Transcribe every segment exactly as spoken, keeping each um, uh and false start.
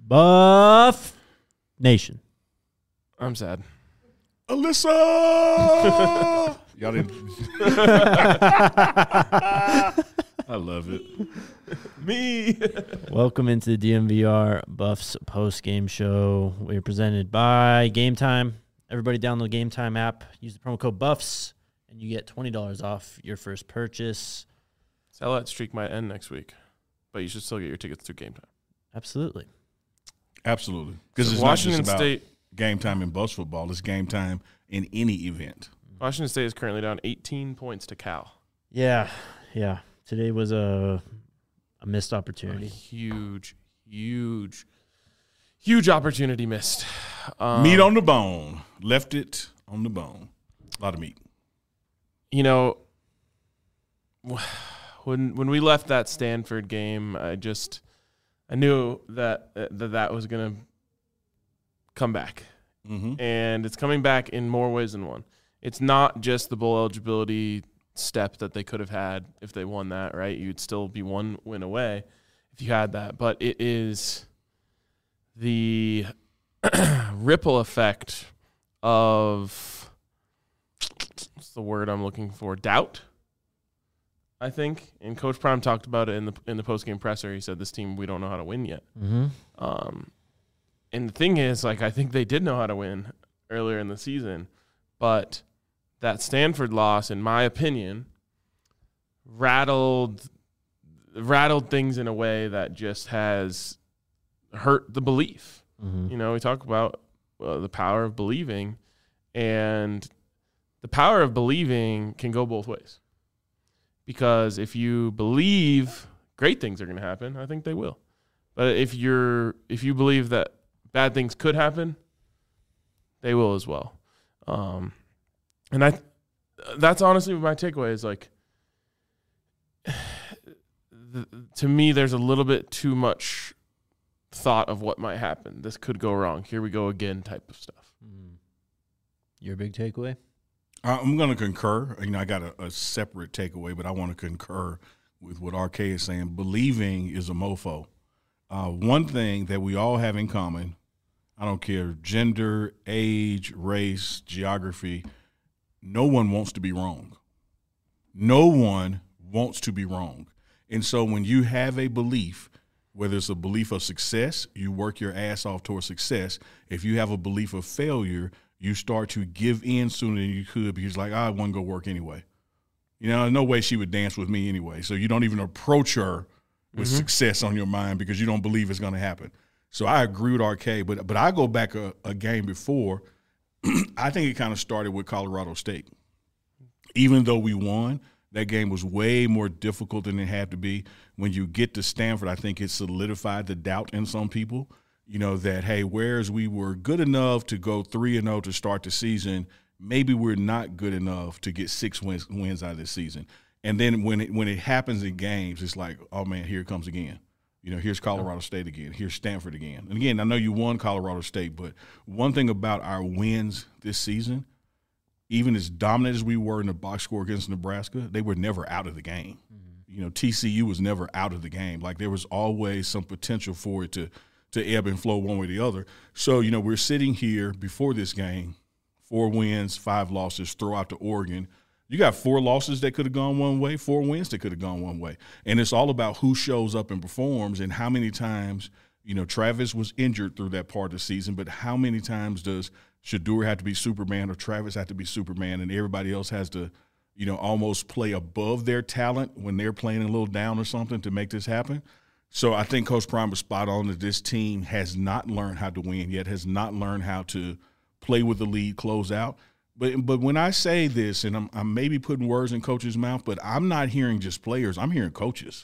Buff Nation. I'm sad. Alyssa! Y'all didn't. I love it. Me. Welcome into the D M V R Buffs post-game show. We're presented by Game Time. Everybody download Game Time app. Use the promo code BUFFS, and you get twenty dollars off your first purchase. Sell that streak might end next week, but you should still get your tickets through Game Time. Absolutely. Absolutely. Because So it's Washington not just about State game time in Buffs football. It's game time in any event. Washington State is currently down eighteen points to Cal. Yeah, yeah. Today was a a missed A opportunity. huge, huge, huge opportunity missed. Um, Meat on the bone. Left it on the bone. A lot of meat. You know, when when we left that Stanford game, I just I knew that that, that was going to come back. Mm-hmm. And it's coming back in more ways than one. It's not just the bowl eligibility step that they could have had if they won that, right? You'd still be one win away if you had that. But it is the ripple effect of, what's the word I'm looking for? Doubt, I think. And Coach Prime talked about it in the in the postgame presser. He said, this team, we don't know how to win yet. Mm-hmm. Um, and the thing is, like, I think they did know how to win earlier in the season, but that Stanford loss, in my opinion, rattled rattled things in a way that just has hurt the belief. Mm-hmm. You know, we talk about uh, the power of believing, and the power of believing can go both ways. Because if you believe great things are going to happen, I think they will. But if you're if you believe that bad things could happen, they will as well. Um, and I, that's honestly my takeaway is like, the, to me, there's a little bit too much thought of what might happen. This could go wrong. Here we go again type of stuff. Mm. Your big takeaway? I'm going to concur. You know, I got a, a separate takeaway, but I want to concur with what R K is saying. Believing is a mofo. Uh, one thing that we all have in common, I don't care gender, age, race, geography, no one wants to be wrong. No one wants to be wrong. And so when you have a belief, whether it's a belief of success, you work your ass off towards success. If you have a belief of failure, you start to give in sooner than you could because, like, I wasn't going to work anyway. You know, there's no way she would dance with me anyway. So you don't even approach her with mm-hmm. success on your mind because you don't believe it's going to happen. So I agree with R K, but but I go back a, a game before. I think it kind of started with Colorado State. Even though we won, that game was way more difficult than it had to be. When you get to Stanford, I think it solidified the doubt in some people, you know, that, hey, whereas we were good enough to go three and oh to start the season, maybe we're not good enough to get six wins, wins out of this season. And then when it when it happens in games, it's like, oh, man, here it comes again. You know, here's Colorado State again. Here's Stanford again. And, again, I know you won Colorado State, but one thing about our wins this season, even as dominant as we were in the box score against Nebraska, they were never out of the game. Mm-hmm. You know, T C U was never out of the game. Like, there was always some potential for it to, to ebb and flow one way or the other. So, you know, we're sitting here before this game, four wins, five losses, throw out to Oregon. You got four losses that could have gone one way, four wins that could have gone one way. And it's all about who shows up and performs and how many times, you know, Travis was injured through that part of the season, but how many times does Shedeur have to be Superman or Travis have to be Superman and everybody else has to, you know, almost play above their talent when they're playing a little down or something to make this happen? So I think Coach Prime was spot on that this team has not learned how to win yet, has not learned how to play with the lead, close out. But but when I say this, and I'm, I'm maybe putting words in coaches' mouth, but I'm not hearing just players. I'm hearing coaches.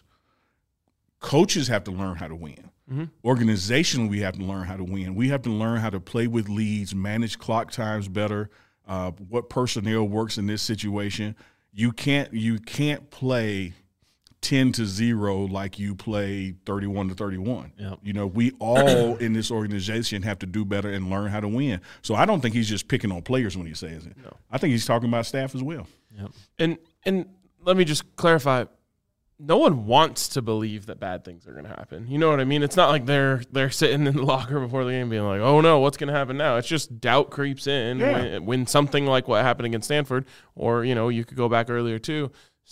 Coaches have to learn how to win. Mm-hmm. Organizationally, we have to learn how to win. We have to learn how to play with leads, manage clock times better, uh, what personnel works in this situation. You can't you can't play ten to zero like you play thirty-one to thirty-one. Yep. You know, we all in this organization have to do better and learn how to win. So I don't think he's just picking on players when he says it. No. I think he's talking about staff as well. Yep. And and let me just clarify. no one wants to believe that bad things are going to happen. You know what I mean? It's not like they're they're sitting in the locker room before the game being like, oh, no, what's going to happen now? It's just doubt creeps in Yeah. when, when something like what happened against Stanford, or, you know, you could go back earlier too,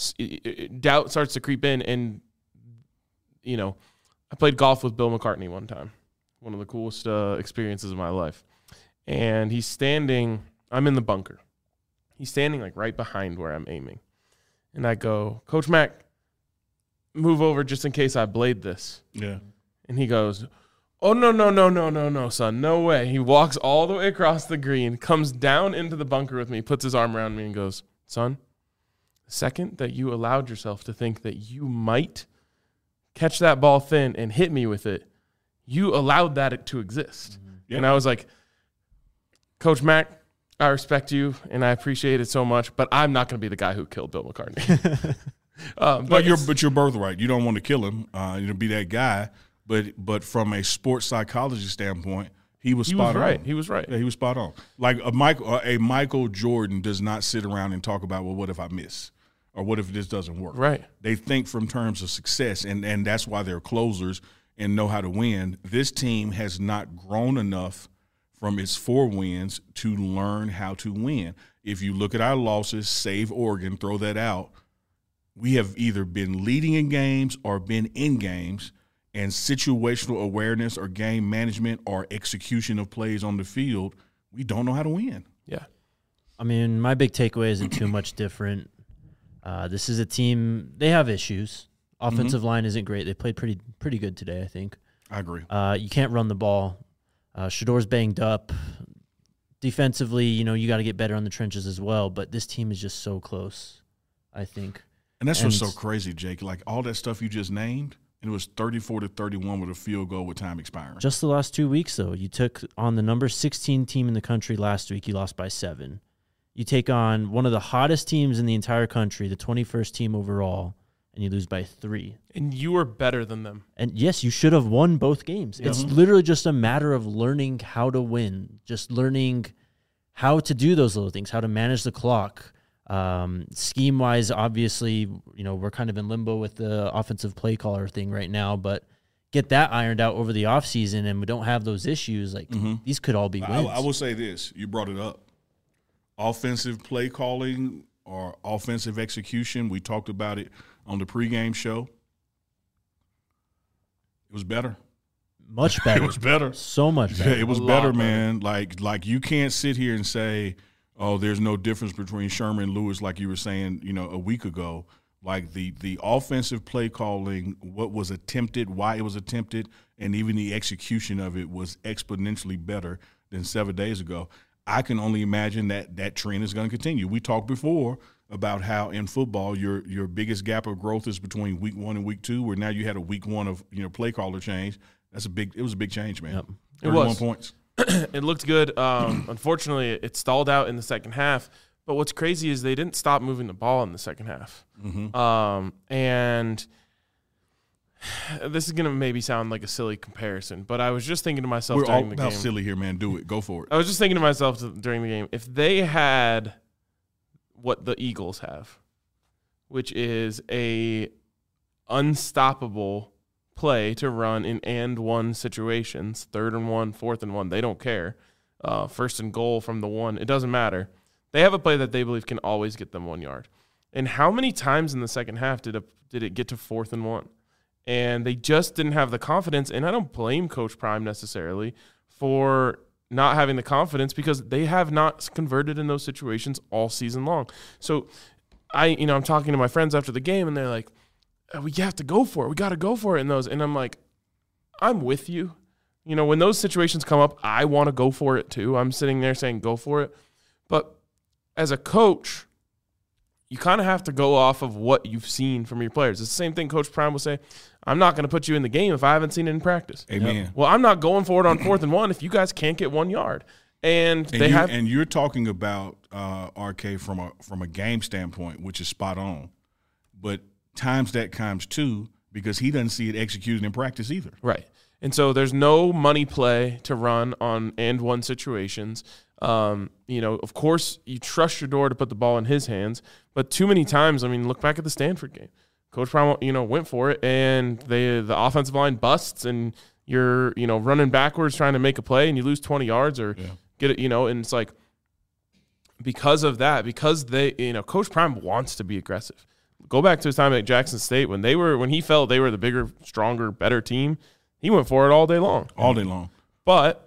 doubt starts to creep in. And, you know, I played golf with Bill McCartney one time, one of the coolest uh, experiences of my life. And he's standing, I'm in the bunker. He's standing like right behind where I'm aiming. And I go, Coach Mack, move over just in case I blade this. Yeah. And he goes, oh, no, no, no, no, no, no, son. No way. He walks all the way across the green, comes down into the bunker with me, puts his arm around me and goes, son, the second that you allowed yourself to think that you might catch that ball thin and hit me with it, you allowed that to exist. Mm-hmm. Yep. And I was like, Coach Mack, I respect you and I appreciate it so much, but I'm not going to be the guy who killed Bill McCartney. um, But, but you're but your birthright. You don't want to kill him. Uh, you know, be that guy. But but from a sports psychology standpoint, he was he spot was right. on. He was right. Yeah, he was spot on. Like a Michael a Michael Jordan does not sit around and talk about, well, what if I miss, or what if this doesn't work? Right. They think from terms of success, and and that's why they're closers and know how to win. This team has not grown enough from its four wins to learn how to win. If you look at our losses, save Oregon, throw that out, we have either been leading in games or been in games, and situational awareness or game management or execution of plays on the field, we don't know how to win. Yeah. I mean, my big takeaway isn't too much different. Uh, this is a team, they have issues. Offensive mm-hmm. line isn't great. They played pretty pretty good today, I think. I agree. Uh, you can't run the ball. Uh, Shador's banged up. Defensively, you know, you got to get better on the trenches as well. But this team is just so close, I think. And that's and what's so crazy, Jake. Like all that stuff you just named, and it was thirty-four to thirty-one with a field goal with time expiring. Just the last two weeks, though. You took on the number sixteen team in the country last week. You lost by seven. You take on one of the hottest teams in the entire country, the twenty-first team overall, and you lose by three. And you were better than them. And, yes, you should have won both games. Mm-hmm. It's literally just a matter of learning how to win, just learning how to do those little things, how to manage the clock. Um, scheme-wise, obviously, you know, we're kind of in limbo with the offensive play caller thing right now, but get that ironed out over the offseason and we don't have those issues. Like, mm-hmm. these could all be wins. I, I will say this. You brought it up. Offensive play calling or offensive execution, we talked about it on the pregame show. It was better. Much better. It was better. So much better. Yeah, it was better, man. Like, like you can't sit here and say, oh, there's no difference between Sherman and Lewis, like you were saying, you know, a week ago. Like the the offensive play calling, what was attempted, why it was attempted, and even the execution of it was exponentially better than seven days ago. I can only imagine that that trend is going to continue. We talked before about how in football your your biggest gap of growth is between week one and week two, where now you had a week one of you know play caller change. That's a big. It was a big change, man. Yep. It was points. It looked good. Um, unfortunately, it stalled out in the second half. But what's crazy is they didn't stop moving the ball in the second half. Mm-hmm. Um, and this is going to maybe sound like a silly comparison, but I was just thinking to myself We're during all the about game. silly here, man. Do it. Go for it. I was just thinking to myself to, during the game, if they had what the Eagles have, which is a unstoppable play to run in and one situations, third and one, fourth and one, they don't care. Uh, first and goal from the one, it doesn't matter. They have a play that they believe can always get them one yard. And how many times in the second half did it, did it get to fourth and one? And they just didn't have the confidence, and I don't blame Coach Prime necessarily for not having the confidence because they have not converted in those situations all season long. So I, you know, I'm talking to my friends after the game, and they're like, we have to go for it. We got to go for it in those. And I'm like, I'm with you. You know, when those situations come up, I want to go for it too. I'm sitting there saying go for it. But as a coach, you kind of have to go off of what you've seen from your players. It's the same thing Coach Prime will say, I'm not going to put you in the game if I haven't seen it in practice. Amen. Yep. Well, I'm not going for it on fourth and one if you guys can't get one yard. And, and they you, have, and you're talking about uh, R K from a from a game standpoint, which is spot on. But times that times two because he doesn't see it executed in practice either. Right. And so there's no money play to run on and one situations. Um, you know, of course, you trust Shador to put the ball in his hands, but too many times, I mean, look back at the Stanford game. Coach Prime, you know, went for it, and they the offensive line busts, and you're, you know, running backwards trying to make a play, and you lose twenty yards or yeah. get it, you know, and it's like because of that, because they, you know, Coach Prime wants to be aggressive. Go back to his time at Jackson State when they were when he felt they were the bigger, stronger, better team. He went for it all day long, all day long. But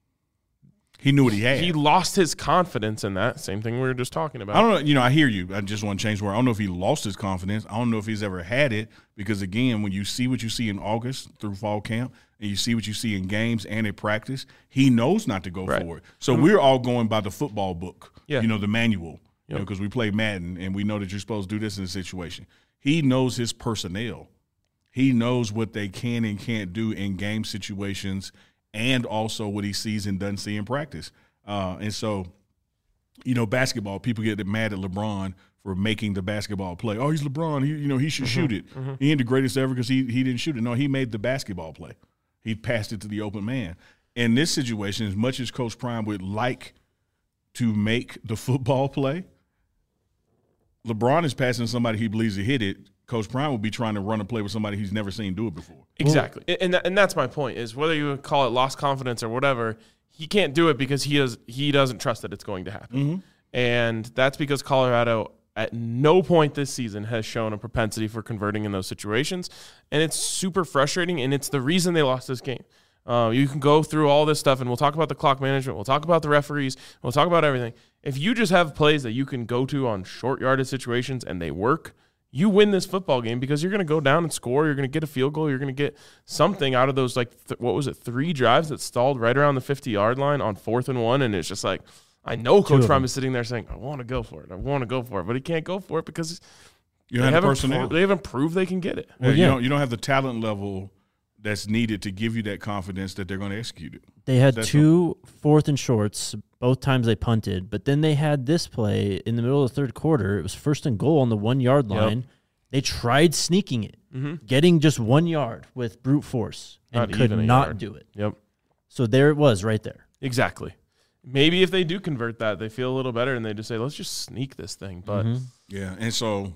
he knew what he had. He lost his confidence in that. Same thing we were just talking about. I don't know. You know, I hear you. I just want to change the word. I don't know if he lost his confidence. I don't know if he's ever had it because, again, when you see what you see in August through fall camp and you see what you see in games and in practice, he knows not to go right. for it. So mm-hmm. we're all going by the football book, yeah. you know, the manual, yep. you know, because we play Madden and we know that you're supposed to do this in a situation. He knows his personnel. He knows what they can and can't do in game situations and also what he sees and doesn't see in practice. Uh, and so, you know, basketball, people get mad at LeBron for making the basketball play. Oh, he's LeBron. He, you know, he should mm-hmm. shoot it. Mm-hmm. He ain't the greatest ever because he, he didn't shoot it. No, he made the basketball play. He passed it to the open man. In this situation, as much as Coach Prime would like to make the football play, LeBron is passing somebody he believes to hit it. Coach Prime will be trying to run a play with somebody he's never seen do it before. Exactly. And that, and that's my point is whether you call it lost confidence or whatever, he can't do it because he does he doesn't trust that it's going to happen. Mm-hmm. And that's because Colorado at no point this season has shown a propensity for converting in those situations. And it's super frustrating, and it's the reason they lost this game. Uh, you can go through all this stuff, and we'll talk about the clock management. We'll talk about the referees. We'll talk about everything. If you just have plays that you can go to on short yardage situations and they work, you win this football game because you're going to go down and score. You're going to get a field goal. You're going to get something out of those, like, th- what was it, three drives that stalled right around the fifty-yard line on fourth and one, and it's just like, I know Coach Prime is sitting there saying, I want to go for it. I want to go for it, but he can't go for it because you don't they, have the haven't personnel. pro- they haven't proved they can get it. Well, yeah. you, don't, you don't have the talent level that's needed to give you that confidence that they're going to execute it. They had that's two what, fourth and shorts both times they punted, but then they had this play in the middle of the third quarter. It was first and goal on the one-yard line. Yep. They tried sneaking it, mm-hmm. getting just one yard with brute force, and not could not yard. do it. Yep. So there it was right there. Exactly. Maybe if they do convert that, they feel a little better, and they just say, let's just sneak this thing. But mm-hmm. Yeah, and so,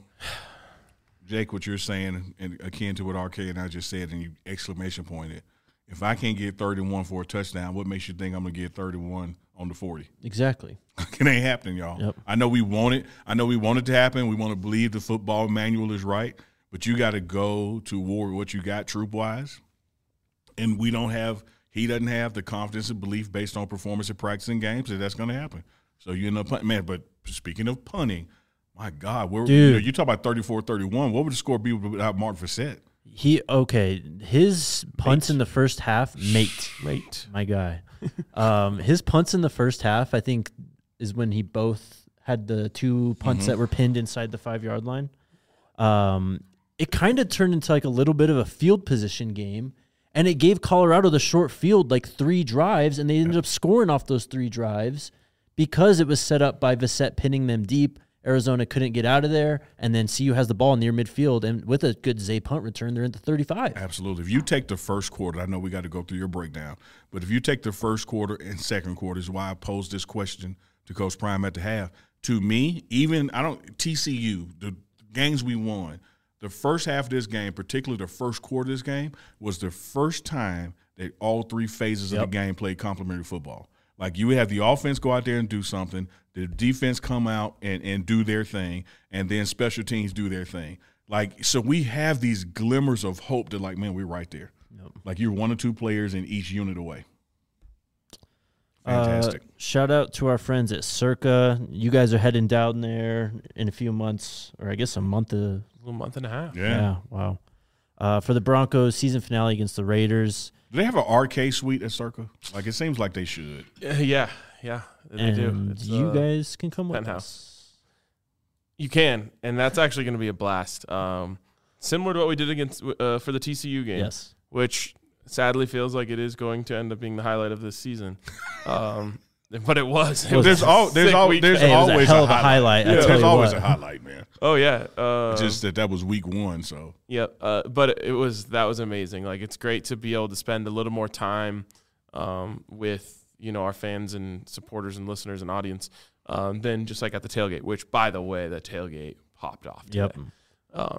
Jake, what you're saying, and akin to what R K and I just said, and you exclamation pointed, if I can't get thirty-one for a touchdown, what makes you think I'm going to get thirty-one on the forty? Exactly. It ain't happening, y'all. Yep. I know we want it. I know we want it to happen. We want to believe the football manual is right, but you got to go to war with what you got troop-wise, and we don't have – he doesn't have the confidence and belief based on performance and practice in games that that's going to happen. So you end up punting. Man, but speaking of punting, my God, where, you, know, you talk about thirty-four thirty-one. What would the score be without Martin Fassett? He okay. His punts mate. in the first half, mate, mate, my guy. um, his punts in the first half, I think, is when he both had the two punts mm-hmm. that were pinned inside the five yard line. Um, it kind of turned into like a little bit of a field position game, and it gave Colorado the short field, like three drives, and they ended up scoring off those three drives because it was set up by Fassett pinning them deep. Arizona couldn't get out of there, and then C U has the ball near midfield, and with a good Zay punt return, they're at the thirty-five. Absolutely. If you take the first quarter, I know we got to go through your breakdown, but if you take the first quarter and second quarter, is why I posed this question to Coach Prime at the half. To me, even I don't T C U, the games we won, the first half of this game, particularly the first quarter of this game, was the first time that all three phases yep. of the game played complementary football. Like you would have the offense go out there and do something, the defense come out and, and do their thing, and then special teams do their thing. Like, so we have these glimmers of hope that, like, man, we're right there. Yep. Like you're one or two players in each unit away. Fantastic. Uh, shout out to our friends at Circa. You guys are heading down there in a few months, or I guess a month. Of, a little month and a half. Yeah. Yeah, wow. Uh, for the Broncos season finale against the Raiders. Do they have an R K suite at Circa? Like, it seems like they should. Uh, yeah, yeah, they and do. It's, you uh, guys can come with penthouse. us. You can, and that's actually going to be a blast. Um, similar to what we did against uh, for the T C U game. Yes. Which sadly feels like it is going to end up being the highlight of this season. Um, but it was. It well, was there's all, there's, all, there's hey, always a hell a of a highlight. highlight. Yeah, there's always what. a highlight, man. Oh yeah. Uh, Just that that was week one, so. Yeah, uh, but it was that was amazing. Like, it's great to be able to spend a little more time um, with you know our fans and supporters and listeners and audience um, than just like at the tailgate. Which, by the way, the tailgate popped off today. Yep. Um,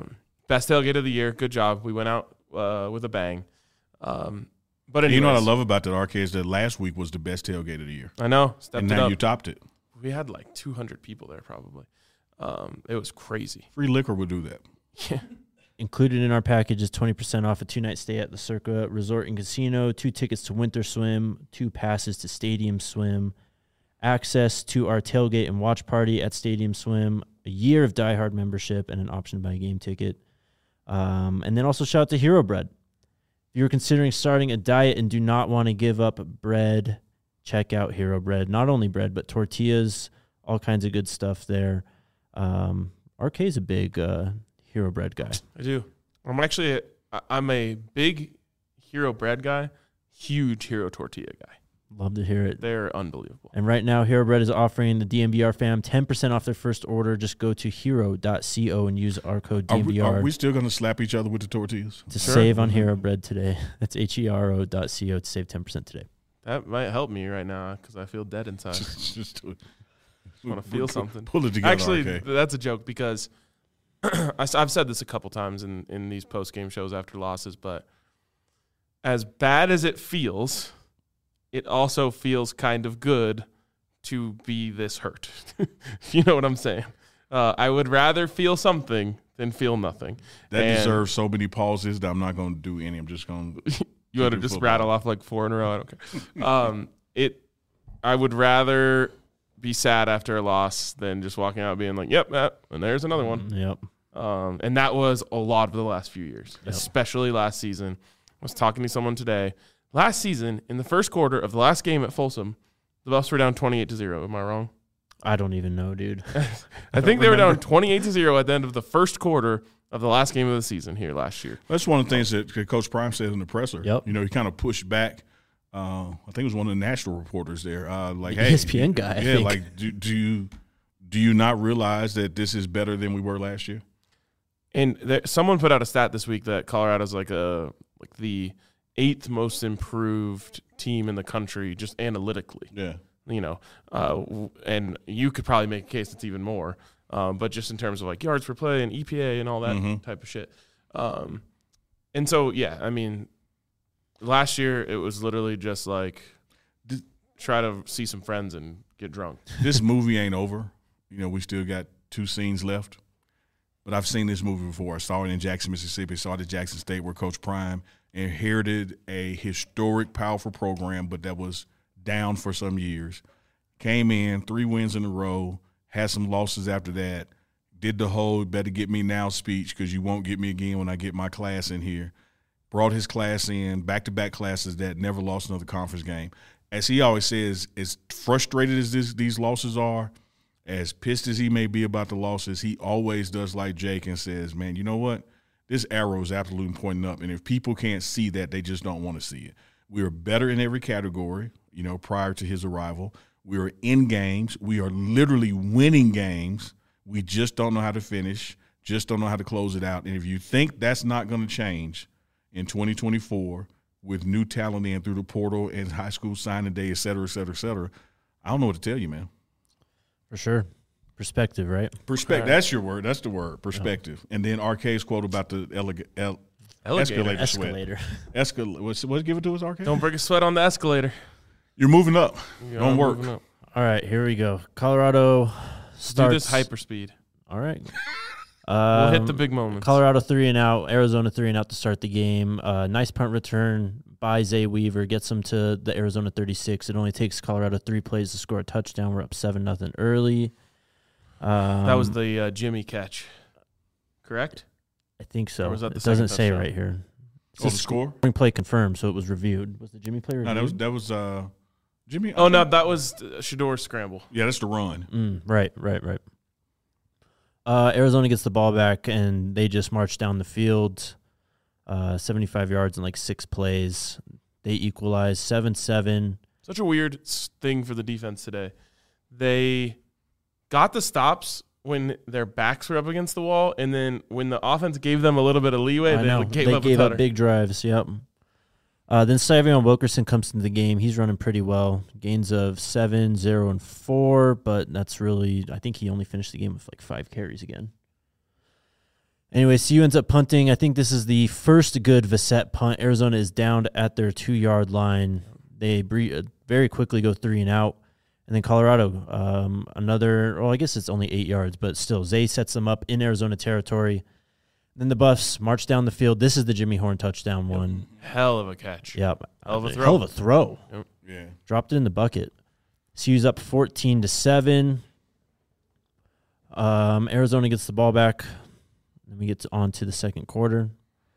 best tailgate of the year. Good job. We went out uh, with a bang. Um, but anyways, you know what I love about that, R K, is that last week was the best tailgate of the year. I know. Stepped and it now up. you topped it. We had like two hundred people there probably. Um, it was crazy. Free liquor would do that. Yeah. Included in our package is twenty percent off a two-night stay at the Circa Resort and Casino, two tickets to Winter Swim, two passes to Stadium Swim, access to our tailgate and watch party at Stadium Swim, a year of Die Hard membership, and an option to buy a game ticket. Um, and then also shout out to Hero Bread. If you're considering starting a diet and do not want to give up bread, check out Hero Bread. Not only bread, but tortillas, all kinds of good stuff there. Um, R K is a big uh, Hero Bread guy. I do. I'm actually, a, I'm a big Hero Bread guy, huge Hero Tortilla guy. Love to hear it. They're unbelievable. And right now, Hero Bread is offering the D M V R fam ten percent off their first order. Just go to hero dot co and use our code D M V R. Are we, are we still going to slap each other with the tortillas? To Sure. save on Hero Bread today. That's H E R O dot co to save ten percent today. That might help me right now because I feel dead inside. just, just do it. Want to feel something. Pull it together. Actually, R K. that's a joke because I, I've said this a couple times in, in these post-game shows after losses, but as bad as it feels, it also feels kind of good to be this hurt. You know what I'm saying? Uh, I would rather feel something than feel nothing. That And deserves so many pauses that I'm not going to do any. I'm just going to. You want to just football. rattle off like four in a row? I don't care. um, it. I would rather be sad after a loss than just walking out being like, yep, that, and there's another one. Yep. Um, and that was a lot of the last few years, Yep. especially last season. I was talking to someone today. Last season, in the first quarter of the last game at Folsom, the Buffs were down twenty-eight to zero. Am I wrong? I don't even know, dude. I think they were down twenty-eight to zero at the end of the first quarter of the last game of the season here last year. That's one of the things that Coach Prime said in the presser. Yep. You know, he kind of pushed back. Uh, I think it was one of the national reporters there. Uh, like, The hey, E S P N guy, I Yeah, think. like, do, do you do you not realize that this is better than we were last year? And there, someone put out a stat this week that Colorado's like a like the eighth most improved team in the country, just analytically. Yeah. You know, uh, w- and you could probably make a case that's even more, um, but just in terms of like yards per play and E P A and all that Mhm. type of shit. Um, and so, yeah, I mean, last year it was literally just like Did- try to see some friends and get drunk. This movie ain't over. You know, we still got two scenes left. But I've seen this movie before. I saw it in Jackson, Mississippi. Saw it at Jackson State where Coach Prime inherited a historic, powerful program, but that was down for some years. Came in, three wins in a row, had some losses after that, did the whole better get me now speech because you won't get me again when I get my class in here. Brought his class in, back-to-back classes that never lost another conference game. As he always says, as frustrated as this, these losses are, as pissed as he may be about the losses, he always does like Jake and says, man, you know what? This arrow is absolutely pointing up, and if people can't see that, they just don't want to see it. We are better in every category, you know, prior to his arrival. We are in games. We are literally winning games. We just don't know how to finish, just don't know how to close it out. And if you think that's not going to change in twenty twenty-four with new talent in through the portal and high school signing day, et cetera, et cetera, et cetera, I don't know what to tell you, man. For sure. Perspective, right? Perspective. That's your word. That's the word. Perspective. And then R K's quote about the eleg- el- Alligator. escalator sweat. Escalator. Escal- what's, what's give it to us, R K? Don't break a sweat on the escalator. You're moving up. You Don't are work. moving up. All right, here we go. Colorado starts. Do this hyperspeed. All right. We'll Um, hit the big moments. Colorado three and out, Arizona three and out to start the game. Uh, nice punt return by Zay Weaver gets them to the Arizona thirty-six. It only takes Colorado three plays to score a touchdown. We're up seven nothing early. Um, That was the uh, Jimmy catch, correct? I think so. or was that the it doesn't second say touchdown? right here. It Oh, the says score? scoring play confirmed, so it was reviewed. Was the Jimmy play reviewed? No, that was that was uh, Jimmy. Oh, no, that was uh, Shador's scramble. Yeah, that's the run. Mm, right, right, right. Uh, Arizona gets the ball back, and they just march down the field, uh, seventy-five yards in like six plays. They equalize seven seven. Such a weird s- thing for the defense today. They got the stops when their backs were up against the wall, and then when the offense gave them a little bit of leeway, I they know. gave they up gave a up tutter. big drives. Yep. Uh, then Savion Wilkerson comes into the game. He's running pretty well. Gains of seven, zero, and four, but that's really, I think he only finished the game with like five carries again. Anyway, C U ends up punting. I think this is the first good Vissette punt. Arizona is down at their two-yard line. They bre- very quickly go three and out. And then Colorado, um, another, well, I guess it's only eight yards, but still, Zay sets them up in Arizona territory. Then the Buffs march down the field. This is the Jimmy Horn touchdown Yep. one. Hell of a catch. Yep. Hell of a throw. Hell of a throw. Yep. Yeah. Dropped it in the bucket. C U's up fourteen to seven. Um, Arizona gets the ball back. Then we get to, on to the second quarter.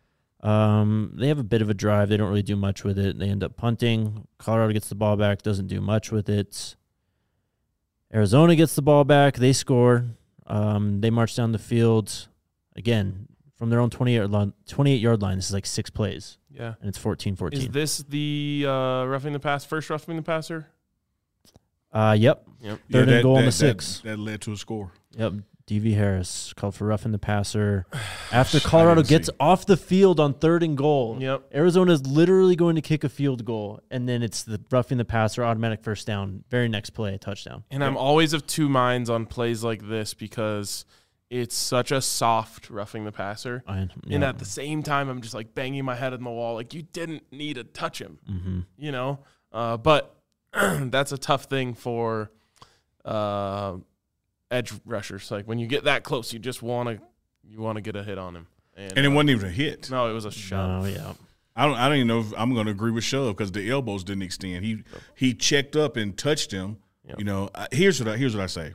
Um, they have a bit of a drive. They don't really do much with it. They end up punting. Colorado gets the ball back. Doesn't do much with it. Arizona gets the ball back. They score. Um, they march down the field. Again, from their own twenty-eight line, twenty-eight yard line. This is like six plays. Yeah. And it's fourteen fourteen. Is this the uh, roughing the pass, first roughing the passer? Uh, yep. Yep. Third that, and goal that, on the that, six. That led to a score. Yep. D V Harris called for roughing the passer. After Colorado didn't gets see. off the field on third and goal, Yep. Arizona is literally going to kick a field goal, and then it's the roughing the passer, automatic first down, very next play, a touchdown. And I'm always of two minds on plays like this because it's such a soft roughing the passer. I, yeah. And at the same time, I'm just like banging my head on the wall. Like, you didn't need to touch him, mm-hmm. you know? Uh, but that's a tough thing for uh, edge rushers. Like, when you get that close, you just want to you want to get a hit on him. And, And it uh, wasn't even a hit. No, it was a shove. Oh, yeah. I don't. I don't even know if I'm going to agree with Shove because the elbows didn't extend. He he checked up and touched him. Yep. You know. I- Here's what I, here's what I say.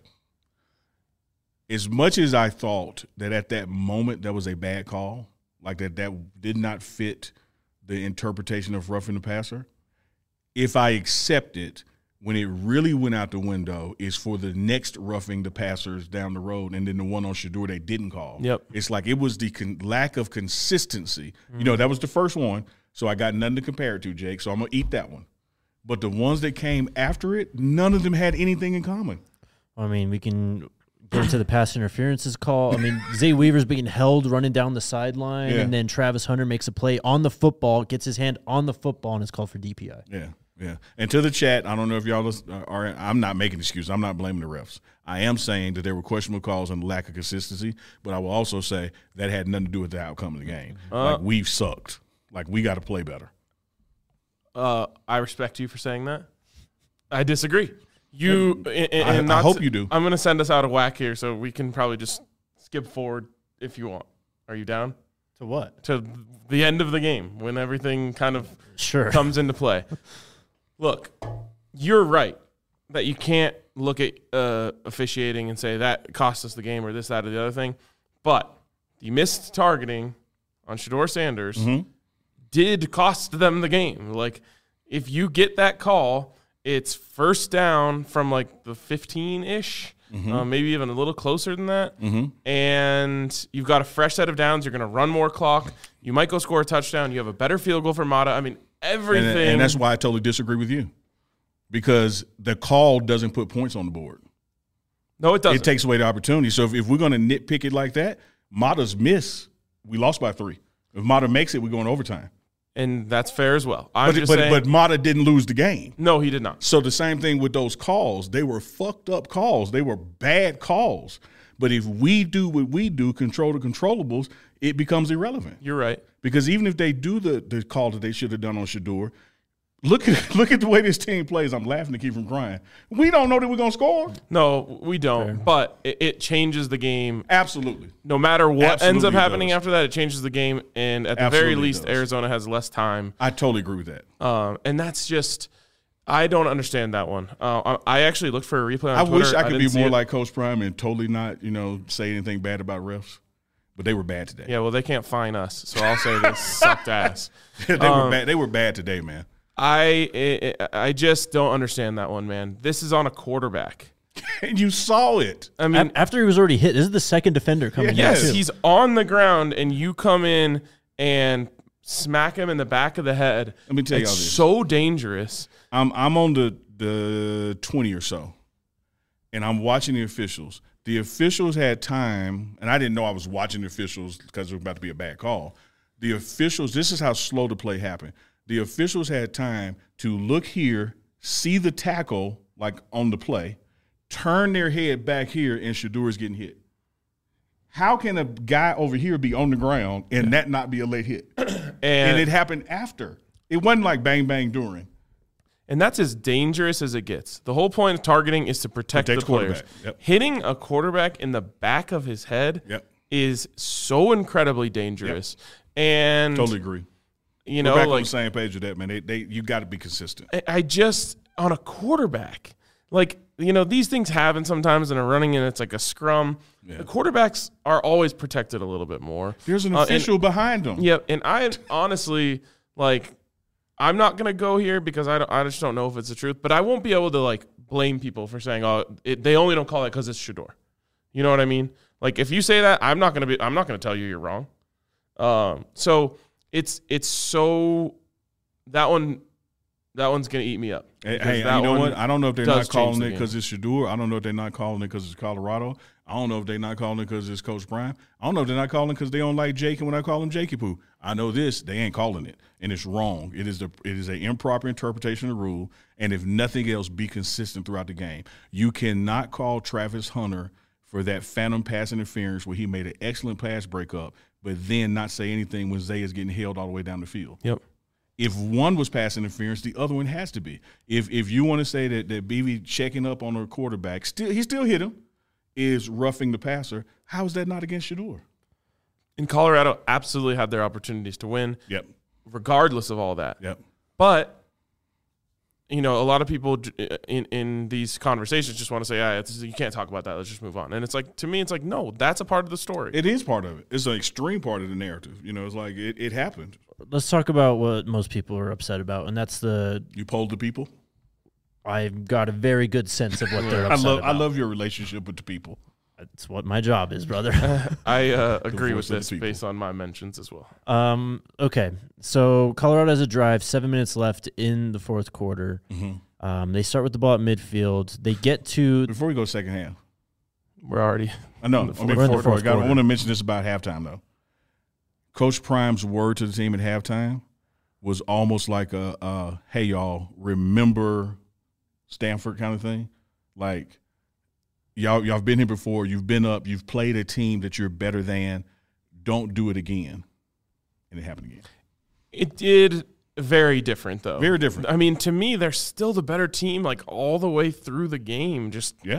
As much as I thought that at that moment that was a bad call, like that that did not fit the interpretation of roughing the passer, if I accept it, when it really went out the window is for the next roughing the passers down the road, and then the one on Shedeur they didn't call. Yep. It's like it was the con- lack of consistency. Mm-hmm. You know, that was the first one, so I got nothing to compare it to, Jake, so I'm going to eat that one. But the ones that came after it, none of them had anything in common. I mean, we can get into the pass interferences call. I mean, Zay Weaver's being held running down the sideline, Yeah. and then Travis Hunter makes a play on the football, gets his hand on the football, and is called for D P I. Yeah, yeah. And to the chat, I don't know if y'all listen, are. I'm not making excuses. I'm not blaming the refs. I am saying that there were questionable calls and lack of consistency, but I will also say that had nothing to do with the outcome of the game. Uh, like, we've sucked. Like, we got to play better. Uh, I respect you for saying that. I disagree. You and, and I, I not hope to- you do. I'm going to send us out of whack here, so we can probably just skip forward if you want. Are you down To what? to the end of the game when everything kind of Sure. comes into play? Look, you're right that you can't look at uh, officiating and say that cost us the game or this, that, or the other thing. But the missed targeting on Shedeur Sanders Mm-hmm. did cost them the game. Like, if you get that call, it's first down from like the fifteen-ish, Mm-hmm. uh, maybe even a little closer than that. Mm-hmm. And you've got a fresh set of downs. You're going to run more clock. You might go score a touchdown. You have a better field goal for Mata. I mean, everything. And, and that's why I totally disagree with you, because the call doesn't put points on the board. no, it doesn't. It takes away the opportunity. So if, if we're going to nitpick it like that, Mata's miss, we lost by three. If Mata makes it, we go in overtime. and that's fair as well. I'm But, just but, saying. but Mata didn't lose the game. no, he did not. So the same thing with those calls. They were fucked up calls. They were bad calls. But if we do what we do, control the controllables, it becomes irrelevant. You're right. Because even if they do the, the call that they should have done on Shedeur, look at look at the way this team plays. I'm laughing to keep from crying. We don't know that we're going to score. No, we don't. Fair. But it, it changes the game. Absolutely. No matter what ends Absolutely up it happening does. after that, it changes the game. And at the very Absolutely least, does. Arizona has less time. I totally agree with that. Um, and that's just, I don't understand that one. Uh, I, I actually looked for a replay on I Twitter. wish I could be didn't see more it. like Coach Prime and totally not, you know, say anything bad about refs. But they were bad today. Yeah, well, they can't fine us, so I'll say they sucked ass. they Um, were bad. They were bad today, man. I, I I just don't understand that one, man. This is on a quarterback. And you saw it. I mean, A- After he was already hit, this is the second defender coming Yes. in, yes, too. he's on the ground, and you come in and smack him in the back of the head. Let me tell it's y'all this. so dangerous. I'm I'm on the the twenty or so, and I'm watching the officials. The officials had time, and I didn't know I was watching the officials because it was about to be a bad call. The officials, this is how slow the play happened. The officials had time to look here, see the tackle like on the play, turn their head back here, and Shedeur is getting hit. How can a guy over here be on the ground and that not be a late hit? And, And it happened after. It wasn't like bang, bang during. and that's as dangerous as it gets. The whole point of targeting is to protect, Protect the the players. quarterback. Yep. Hitting a quarterback in the back of his head Yep. is so incredibly dangerous. And Totally agree. you We're know, back on like the same page with that, man. They, they, you got to be consistent. I- I just on a quarterback, like you know, these things happen sometimes in a running, and it's like a scrum. Yeah. The quarterbacks are always protected a little bit more. There's an Uh, and- official behind them. Yeah, and I honestly like. I'm not gonna go here because I don't, I just don't know if it's the truth, but I won't be able to like blame people for saying, oh, it, they only don't call it because it's Shedeur. You know what I mean? Like if you say that, I'm not gonna be. I'm not gonna tell you you're wrong. Um, so it's it's so that one that one's gonna eat me up. Hey, Because hey, that you know one what? I don't know if they're does not change calling the it game. because it's Shedeur. I don't know if they're not calling it because it's Colorado. I don't know if they're not calling it because it's Coach Prime. I don't know if they're not calling it because they don't like Jake, and when I call him Jakey Poo. I know this, they ain't calling it, and it's wrong. It is the it is an improper interpretation of the rule, and if nothing else, be consistent throughout the game. You cannot call Travis Hunter for that phantom pass interference where he made an excellent pass breakup, but then not say anything when Zay is getting held all the way down the field. Yep. If one was pass interference, the other one has to be. If if you want to say that that B B checking up on a quarterback, still he still hit him, is roughing the passer, how is that not against Shedeur? In Colorado, absolutely had their opportunities to win, Yep. regardless of all that. Yep. But you know, a lot of people in in these conversations just want to say, "Ah, it's, you can't talk about that. Let's just move on." And it's like, to me, it's like, no, that's a part of the story. It is part of it. It's an extreme part of the narrative. You know, it's like it, it happened. Let's talk about what most people are upset about, and that's the. You polled the people. I've got a very good sense of what they're I upset love about. I love your relationship with the people. That's what my job is, brother. I uh, agree with voice of the this people. based on my mentions as well. um. Okay. So Colorado has a drive. Seven minutes left in the fourth quarter. Mm-hmm. Um. They start with the ball at midfield. They get to. Before we go second half, We're already I know. In the I fourth- mean, we're in the fourth fourth quarter. I quarter. want to mention this about halftime though. Coach Prime's word to the team at halftime was almost like a, uh, "Hey y'all, remember Stanford" kind of thing. Like y'all, y'all have been here before. You've been up. You've played a team that you're better than. Don't do it again. And it happened again. It did very different though. Very different. I mean, to me, they're still the better team, like all the way through the game. Just Yeah.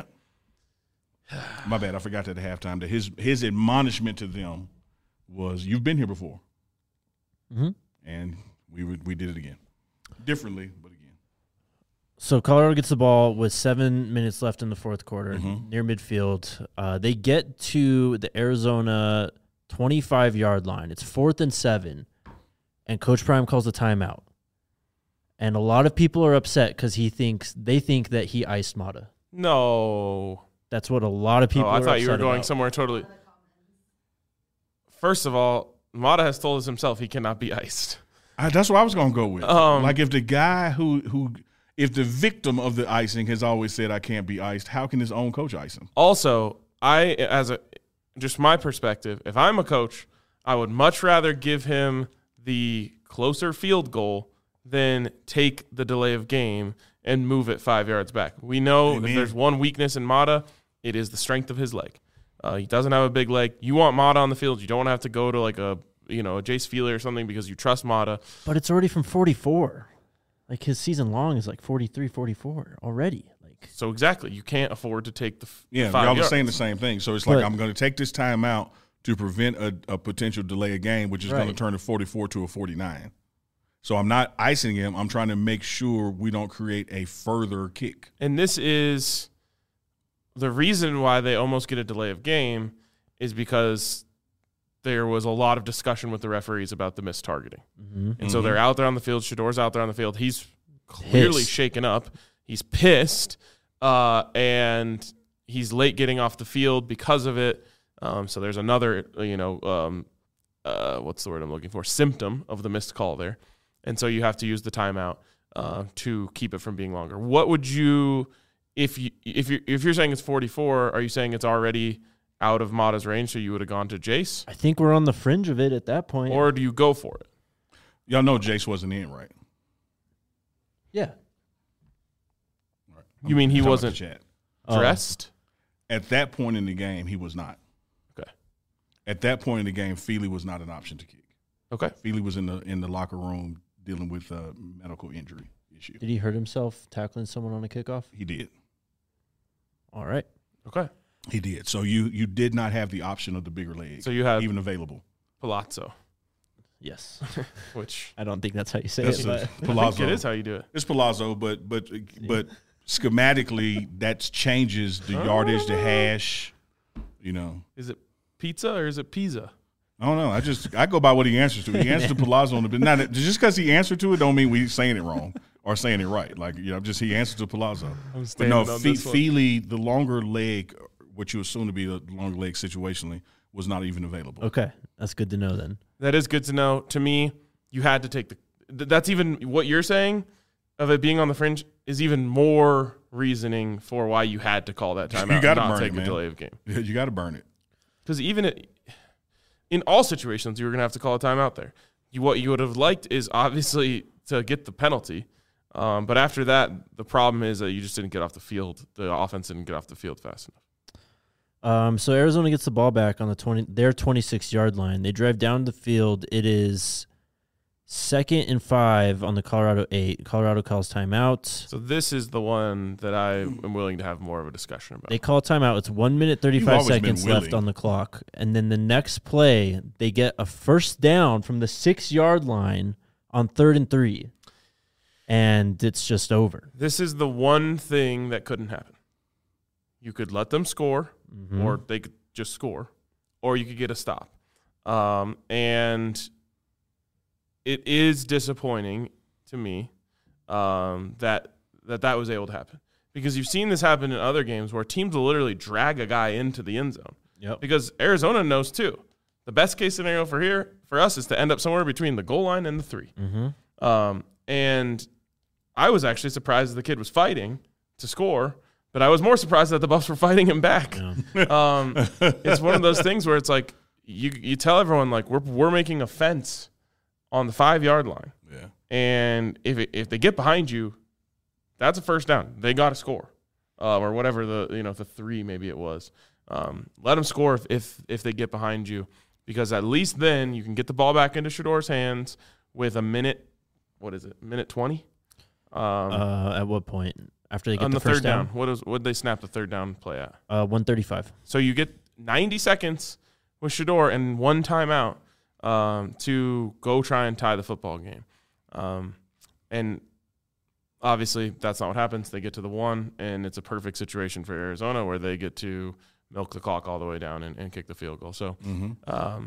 My bad. I forgot that at halftime that his his admonishment to them was, "You've been here before," Mm-hmm. and we would, we did it again, differently, but again. So Colorado gets the ball with seven minutes left in the fourth quarter, Mhm. near midfield. Uh, they get to the Arizona twenty-five yard line. It's fourth and seven, and Coach Prime calls a timeout. And a lot of people are upset because he thinks they think that he iced Mata. no. That's what a lot of people. Oh, I are thought you were upset going about. somewhere totally. First of all, Mata has told us himself he cannot be iced. I, that's what I was going to go with. Um, like if the guy who who if the victim of the icing has always said I can't be iced, how can his own coach ice him? Also, I as a just my perspective, if I'm a coach, I would much rather give him the closer field goal than take the delay of game and move it five yards back. We know Amen. if there's one weakness in Mata, it is the strength of his leg. Uh, he doesn't have a big leg. You want Mata on the field. You don't have to go to like a you know a Jace Feely or something because you trust Mata. But it's already from forty-four. Like his season long is like forty-three, forty-four already. Like So exactly, you can't afford to take the f- Yeah, five y'all are yards. saying the same thing. So it's like But- I'm going to take this time out to prevent a, a potential delay of game, which is going to Right. turn a forty-four to a forty-nine. So I'm not icing him. I'm trying to make sure we don't create a further kick. And this is the reason why they almost get a delay of game is because there was a lot of discussion with the referees about the missed targeting. mm-hmm. And so Mhm. they're out there on the field. Shador's out there on the field. He's clearly Pissed. shaken up. He's pissed. Uh, and he's late getting off the field because of it. Um, so there's another, you know, um, uh, what's the word I'm looking for? Symptom of the missed call there. And so you have to use the timeout uh, to keep it from being longer. What would you, if you if you if you're saying it's forty-four, are you saying it's already out of Mata's range, so you would have gone to Jace, I think we're on the fringe of it at that point. or do you go for it? Y'all know Jace wasn't in, right? yeah. Right. You mean he Talking about wasn't the chat. Oh. dressed? At that point in the game, he was not. Okay. At that point in the game, Feely was not an option to kick. Okay. Feely was in the in the locker room dealing with a medical injury issue. Did he hurt himself tackling someone on a kickoff? He did. All right. Okay. He did. So you you did not have the option of the bigger leg. So you had even available. Palazzo. Yes. Which I don't think that's how you say That's it, a- but Palazzo. I think it is how you do it. It's Palazzo, but but but schematically that changes the yardage, the hash. You know, Is it pizza or is it pizza? I don't know. I just I go by what he answers to. He answers to Palazzo on the now that- just because he answered to it don't mean we saying it wrong or saying it right. Like you know, just he answered to Palazzo. I'm But standing no, on Fe- this one. Feely, the longer leg, what you assume to be the longer leg situationally, was not even available. okay. That's good to know then. That is good to know. To me, you had to take the. th- That's even what you're saying of it being on the fringe is even more reasoning for why you had to call that timeout. You gotta and not burn take it, a man. delay of game. Yeah, you got to burn it. Because even it, in all situations, you were going to have to call a timeout there. You, what you would have liked is obviously to get the penalty. Um, but after that, the problem is that you just didn't get off the field. The offense didn't get off the field fast enough. Um, so Arizona gets the ball back on the twenty their twenty-six yard line. They drive down the field. It is second and five on the Colorado eight. Colorado calls timeout. So this is the one that I am willing to have more of a discussion about. They call timeout. It's one minute thirty You've five always been seconds left willing. on the clock, and then the next play they get a first down from the six yard line on third and three, and it's just over. This is the one thing that couldn't happen. You could let them score, Mhm. or they could just score, or you could get a stop. Um, and it is disappointing to me um, that, that that was able to happen. Because you've seen this happen in other games where teams will literally drag a guy into the end zone. Yep. Because Arizona knows too. The best case scenario for here for us is to end up somewhere between the goal line and the three. Mm-hmm. Um, and I was actually surprised that the kid was fighting to score, but I was more surprised that the Buffs were fighting him back. Yeah. Um, it's one of those things where it's like you you tell everyone like we're we're making a fence on the five yard line, Yeah. and if it, if they get behind you, that's a first down. They got to score, uh, or whatever the you know the three maybe it was. Um, let them score if, if if they get behind you, because at least then you can get the ball back into Shador's hands with a minute. What is it? Minute twenty. Um, Uh, at what point? After they get on the, the first third down. down? What is what did they snap the third down play at? Uh, one thirty-five. So you get ninety seconds with Shador and one timeout um, to go try and tie the football game. Um, and obviously that's not what happens. They get to the one, and it's a perfect situation for Arizona where they get to milk the clock all the way down and, and kick the field goal. So Mm-hmm. um,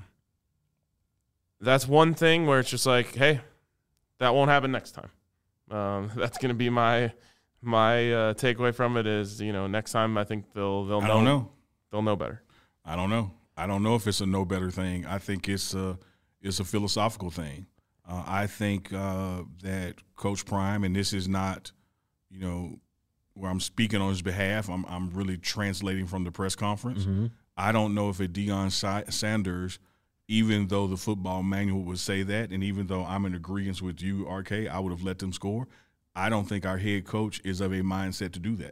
that's one thing where it's just like, hey, that won't happen next time. Um, that's going to be my my uh, takeaway from it is, you know, next time I think they'll they'll I know, don't know. they'll know better. I don't know. I don't know if it's a no better thing. I think it's a it's a philosophical thing. Uh, I think uh, that Coach Prime, and this is not, you know, where I'm speaking on his behalf. I'm I'm really translating from the press conference. Mm-hmm. I don't know if a Deion Sa- Sanders, even though the football manual would say that, and even though I'm in agreement with you, R K, I would have let them score. I don't think our head coach is of a mindset to do that.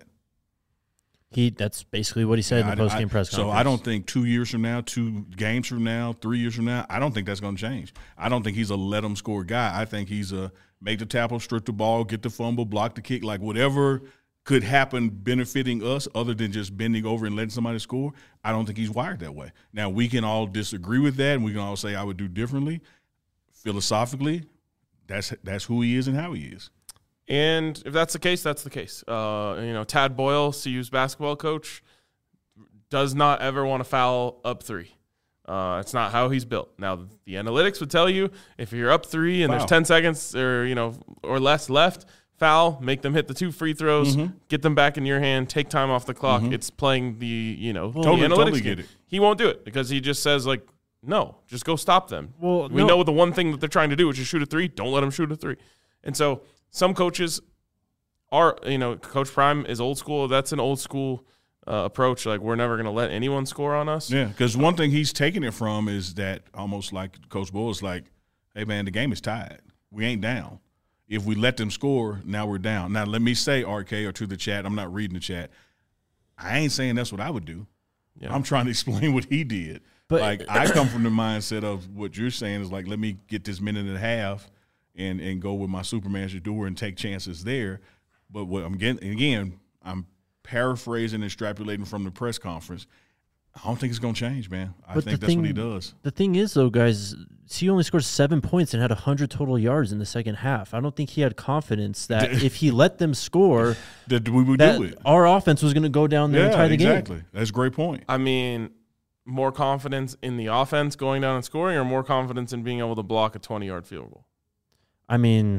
He that's basically what he said Yeah, in the I- post game I- press conference. So I don't think two years from now, two games from now, three years from now, I don't think that's going to change. I don't think he's a let him score guy. I think he's a make the tackle, strip the ball, get the fumble, block the kick, like whatever could happen benefiting us other than just bending over and letting somebody score. I don't think he's wired that way. Now, we can all disagree with that, and we can all say I would do differently. Philosophically, that's that's who he is and how he is. And if that's the case, that's the case. Uh, you know, Tad Boyle, C U's basketball coach, does not ever want to foul up three. Uh, it's not how he's built. Now, the analytics would tell you if you're up three and Foul. there's ten seconds or you know or less left, foul, make them hit the two free throws, Mhm. get them back in your hand, take time off the clock. Mhm. It's playing the you know the Totally- analytics totally game. get it. He won't do it because he just says like, no, just go stop them. Well, we no. know the one thing that they're trying to do, which is shoot a three. Don't let them shoot a three. And so some coaches are, you know, Coach Prime is old school. That's an old school uh, approach. Like, we're never going to let anyone score on us. Yeah, because one thing he's taking it from is that almost like Coach Bull is like, hey, man, the game is tied. We ain't down. If we let them score, now we're down. Now, let me say, R K, or to the chat, I'm not reading the chat, I ain't saying that's what I would do. Yeah. I'm trying to explain what he did. But like I come from the mindset of what you're saying is like, let me get this minute and a half and and go with my Superman Shador and take chances there. But what I'm getting again, I'm paraphrasing and extrapolating from the press conference. I don't think it's going to change, man. I But think the that's what he thing- does. the thing is, though, guys, he only scored seven points and had one hundred total yards in the second half. I don't think he had confidence that if he let them score, That we would that do it. our offense was going to go down there and Yeah, tie the exactly. game. That's a great point. I mean, more confidence in the offense going down and scoring, or more confidence in being able to block a twenty-yard field goal? I mean,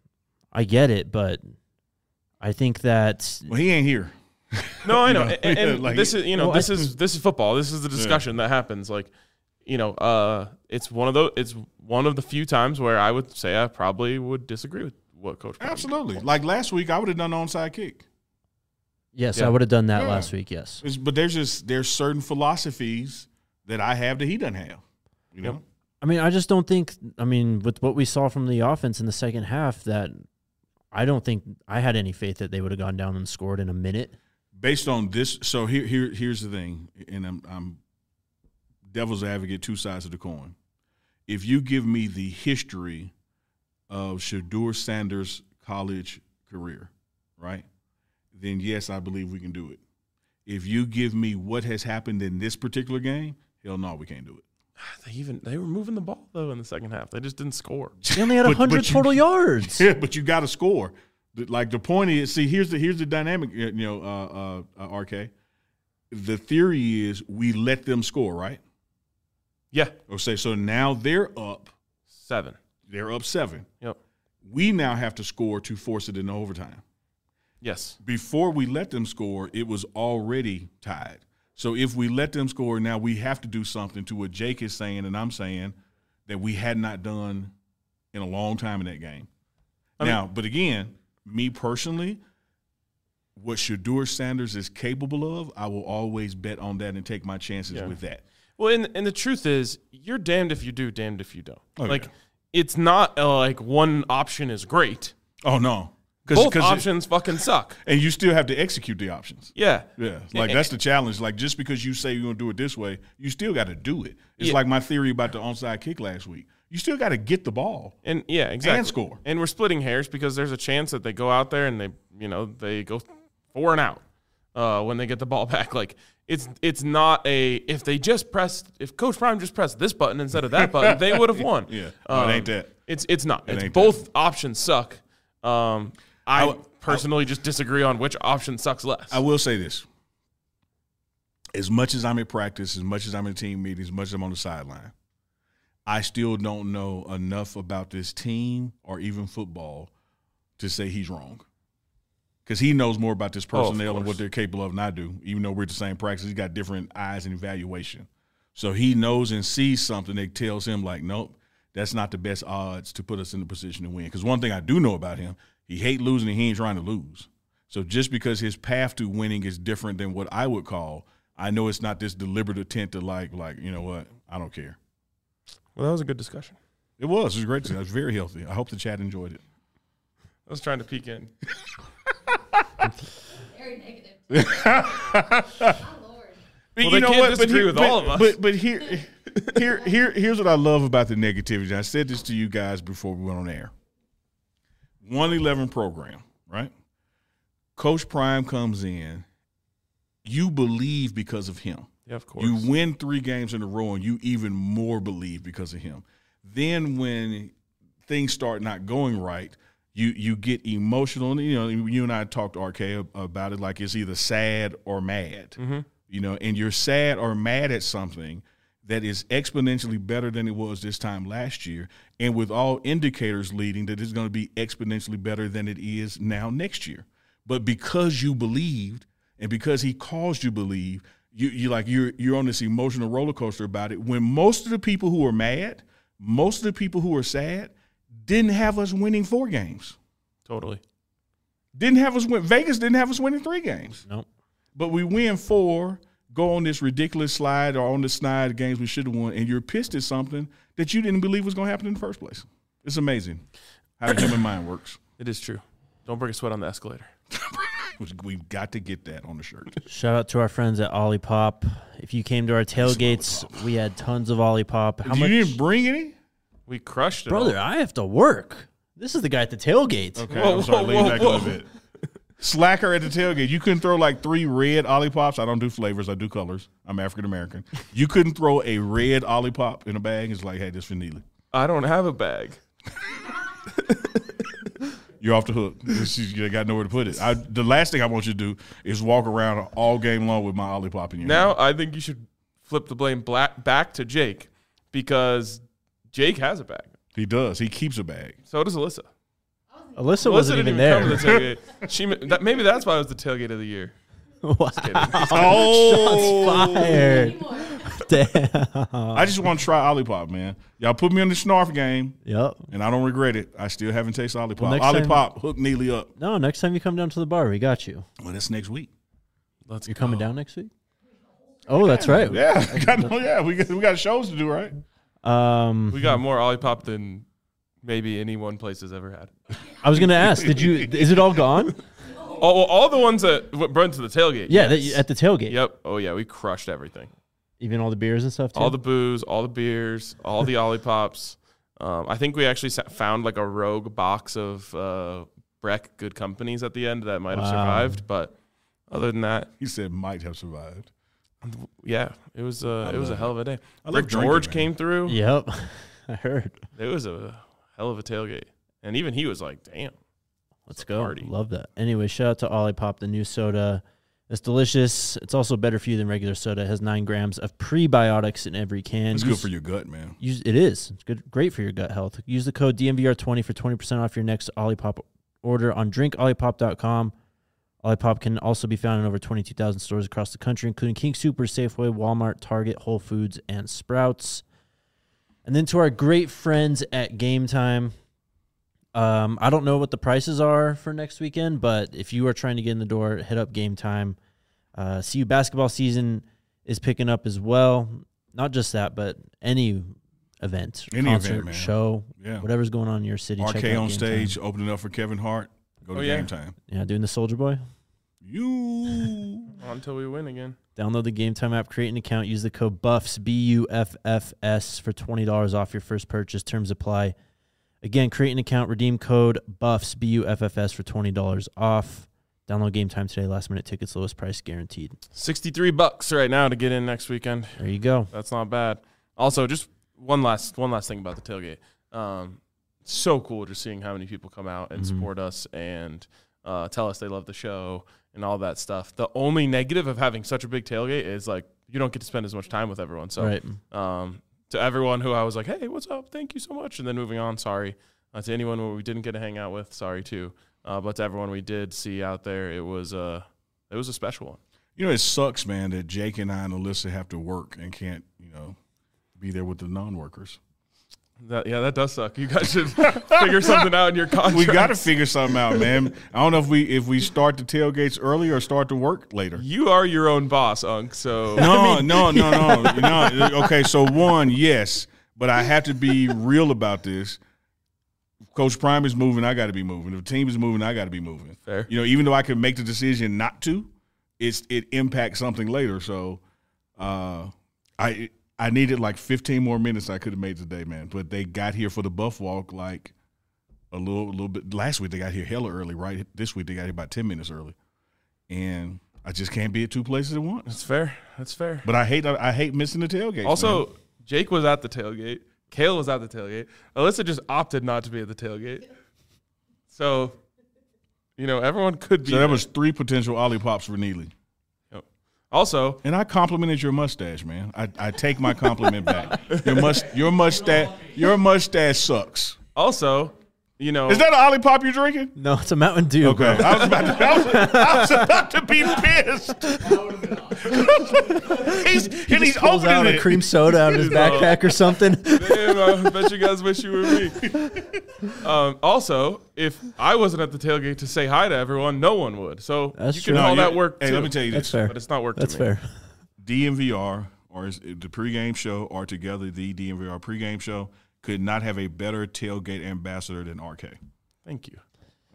I get it, but I think that Well, he ain't here. No, I know, You know, and, and yeah, like- this is you know Well, this I- is this is football. This is the discussion that happens. Like, you know, uh, it's one of those. It's one of the few times where I would say I probably would disagree with what Coach. Brown did. Absolutely. Like last week, I would have done the onside kick. yes, Yeah. I would have done that Yeah. last week. Yes, It's, but there's just there's certain philosophies that I have that he doesn't have. You know, Yep. I mean, I just don't think. I mean, with what we saw from the offense in the second half, that I don't think I had any faith that they would have gone down and scored in a minute. based on this. So here here here's the thing, and I'm, I'm devil's advocate, two sides of the coin. If you give me the history of Shador Sanders' college career, right, then yes, I believe we can do it. If you give me what has happened in this particular game, hell no, we can't do it. They even they were moving the ball though in the second half. They just didn't score. They only had But- one hundred but you- total yards. Yeah, but you got to score. The- Like the point is, see, here's the here's the dynamic. You know, uh, uh, uh, R K. The theory is we let them score, right? Yeah, Or say so. Now they're up. seven. They're up seven. Yep. We now have to score to force it into overtime. Yes. Before we let them score, it was already tied. So if we let them score, now we have to do something to what Jake is saying and I'm saying that we had not done in a long time in that game. I mean- now, but again, me personally, what Shador Sanders is capable of, I will always bet on that and take my chances Yeah. with that. Well, and and the truth is, you're damned if you do, damned if you don't. Oh, like, yeah. it's not uh, like one option is great. Oh no, Both it- options fucking suck. and you still have to execute the options. Yeah. Yeah, like that's the challenge. Like just because you say you're gonna do it this way, you still got to do it. It's Yeah. like my theory about the onside kick last week. You still got to get the ball. And yeah, exactly. And score. And we're splitting hairs because there's a chance that they go out there and they, you know, they go four and out uh, when they get the ball back. Like it's it's not a if they just pressed if Coach Prime just pressed this button instead of that button, they would have won. Yeah, no, it ain't that. It's it's not. It It's ain't both options suck. Um, I, I w- personally just disagree on which option sucks less. I will say this: as much as I'm at practice, as much as I'm in team meetings, as much as I'm on the sideline, I still don't know enough about this team or even football to say he's wrong. Because he knows more about this Oh, of personnel and what course. they're capable of than I do. Even though we're at the same practice, he's got different eyes and evaluation. So he knows and sees something that tells him, like, nope, that's not the best odds to put us in the position to win. Because one thing I do know about him, he hates losing and he ain't trying to lose. So just because his path to winning is different than what I would call, I know it's not this deliberate attempt to, like, like you know what, I don't care. well, that was a good discussion. It was. It was great. It was very healthy. I hope the chat enjoyed it. I was trying to peek in. Very negative. My lord. But Well, they can't disagree with but, all of us. But but here, here, here, here's what I love about the negativity. I said this to you guys before we went on air. one eleven program, right? Coach Prime comes in. You believe because of him. Yeah, of course. You win three games in a row, and you even more believe because of him. Then when things start not going right, you you get emotional. And, you know, you and I talked to R K about it like it's either sad or mad. Mm-hmm. You know, and you're sad or mad at something that is exponentially better than it was this time last year, and with all indicators leading that it's going to be exponentially better than it is now next year. But because you believed, and because he caused you believe, you you like you're you're on this emotional roller coaster about it. When most of the people who are mad, most of the people who are sad, didn't have us winning four games. Totally. Didn't have us win. Vegas didn't have us winning three games. Nope. But we win four, go on this ridiculous slide or on the snide games we should have won, and you're pissed at something that you didn't believe was going to happen in the first place. It's amazing how the human mind works. It is true. Don't break a sweat on the escalator. We've got to get that on the shirt. Shout out to our friends at Olipop. If you came to our tailgates, we had tons of Olipop. How you much, didn't bring any? We crushed it. brother? all. I have to work. This is the guy at the tailgate. Okay, Whoa, I'm sorry. whoa, Lean whoa, back whoa. a little bit. Slacker at the tailgate. You couldn't throw like three red Olipops. I don't do flavors. I do colors. I'm African American. You couldn't throw a red Olipop in a bag. It's like, hey, this for Neely. I don't have a bag. You're off the hook. This is- You got nowhere to put it. I, the last thing I want you to do is walk around all game long with my Olipop in your Now hand. I think you should flip the blame black back to Jake because Jake has a bag. He does. He keeps a bag. So does Alyssa. Alyssa Alyssa wasn't didn't even even there. come to the tailgate. She that, maybe that's why it was the tailgate of the year. Wow. Oh, Fire. Anymore. Damn. I just want to try Olipop, man. Y'all put me in the snarf game, Yep. and I don't regret it. I still haven't tasted Olipop. Well, next time- Olipop hooked Neely up. No, next time you come down to the bar, we got you. Well, that's next week. Let's You're go. coming down next week? Oh, that's right. Yeah, I got, no, yeah, we got we got shows to do, right? Um, We got more Olipop than maybe any one place has ever had. I was gonna ask, did you? Is it all gone? Oh, well, all the ones that w- burned to the tailgate. Yeah, yes. that, at the tailgate. Yep. Oh yeah, we crushed everything. Even all the beers and stuff too. All the booze, all the beers, all the Olipops. Um, I think we actually sa- found like a rogue box of uh, Breck Good Companies at the end that might have Wow. survived, but other than that, He said might have survived. yeah, it was uh, it was a love hell of a day. I love Rick drinking, George man. came through. Yep, I heard. It was a hell of a tailgate, and even he was like, "Damn." Let's go. Party. Love that. Anyway, shout out to Olipop, the new soda. It's delicious. It's also better for you than regular soda. It has nine grams of prebiotics in every can. It's Use- good for your gut, man. Use, it is. It's good, great for your gut health. Use the code D M V R twenty for twenty percent off your next Olipop order on drink olipop dot com. Olipop can also be found in over twenty-two thousand stores across the country, including King Super, Safeway, Walmart, Target, Whole Foods, and Sprouts. And then to our great friends at Game Time. Um, I don't know what the prices are for next weekend, but if you are trying to get in the door, hit up Game Time. Uh, C U basketball season is picking up as well. Not just that, but any event, Any concert, event, man. show, Yeah. whatever's going on in your city. check R K out on Game stage, Time. opening up for Kevin Hart. Go to Oh, yeah. Game Time. Yeah, doing the Soldier Boy. You. Until we win again. Download the Game Time app, create an account, use the code BUFFS, B U F F S, for twenty dollars off your first purchase. Terms apply. Again, create an account, redeem code BUFFS, B U F F S, for twenty dollars off. Download Game Time today. Last minute tickets, lowest price guaranteed. Sixty-three bucks right now to get in next weekend. There you go. That's not bad. Also, just one last one last thing about the tailgate. Um, so cool just seeing how many people come out and Mhm. support us and uh, tell us they love the show and all that stuff. The only negative of having such a big tailgate is like you don't get to spend as much time with everyone. So, Right. um, to everyone who I was like, "Hey, what's up? Thank you so much," and then moving on, sorry. Uh, to anyone who we didn't get to hang out with, sorry too. Uh, but to everyone we did see out there, it was uh, it was a special one. You know, it sucks, man, that Jake and I and Alyssa have to work and can't, you know, be there with the non-workers. That, yeah, that does suck. You guys should figure something out in your contract. We got to figure something out, man. I don't know if we if we start the tailgates early or start to work later. You are your own boss, Unc. So No, no, no, no, no. Okay, so one, yes, but I have to be real about this. Coach Prime is moving, I got to be moving. If the team is moving, I got to be moving. Fair. You know, even though I can make the decision not to, it's it impacts something later. So, uh, I I needed like fifteen more minutes I could have made today, man. But they got here for the Buff Walk like a little little bit. Last week they got here hella early, right? This week they got here about ten minutes early, and I just can't be at two places at once. that's fair. That's fair. But I hate I hate missing the tailgate. Also, Jake was at the tailgate. Kale was at the tailgate. Alyssa just opted not to be at the tailgate. So, you know, everyone could be. so that there. was three potential Olipops for Neely. Also, And I complimented your mustache, man. I, I take my compliment back. Your must your mustache your mustache sucks. also, you know, Is that an Olipop you're drinking? No, it's a Mountain Dew. Okay, Bro. I was about to, I was, I was about to be pissed. he's and he's Pulls out opening a it. cream soda out of his backpack or something. damn, I bet you guys wish you were me. Um, also, if I wasn't at the tailgate to say hi to everyone, no one would. So That's you true. can No, call you- that work Hey, too. let me tell you That's this: fair. But it's not work That's to me. fair. D M V R or is it the pregame show are together. The D M V R pregame show could not have a better tailgate ambassador than R K. Thank you.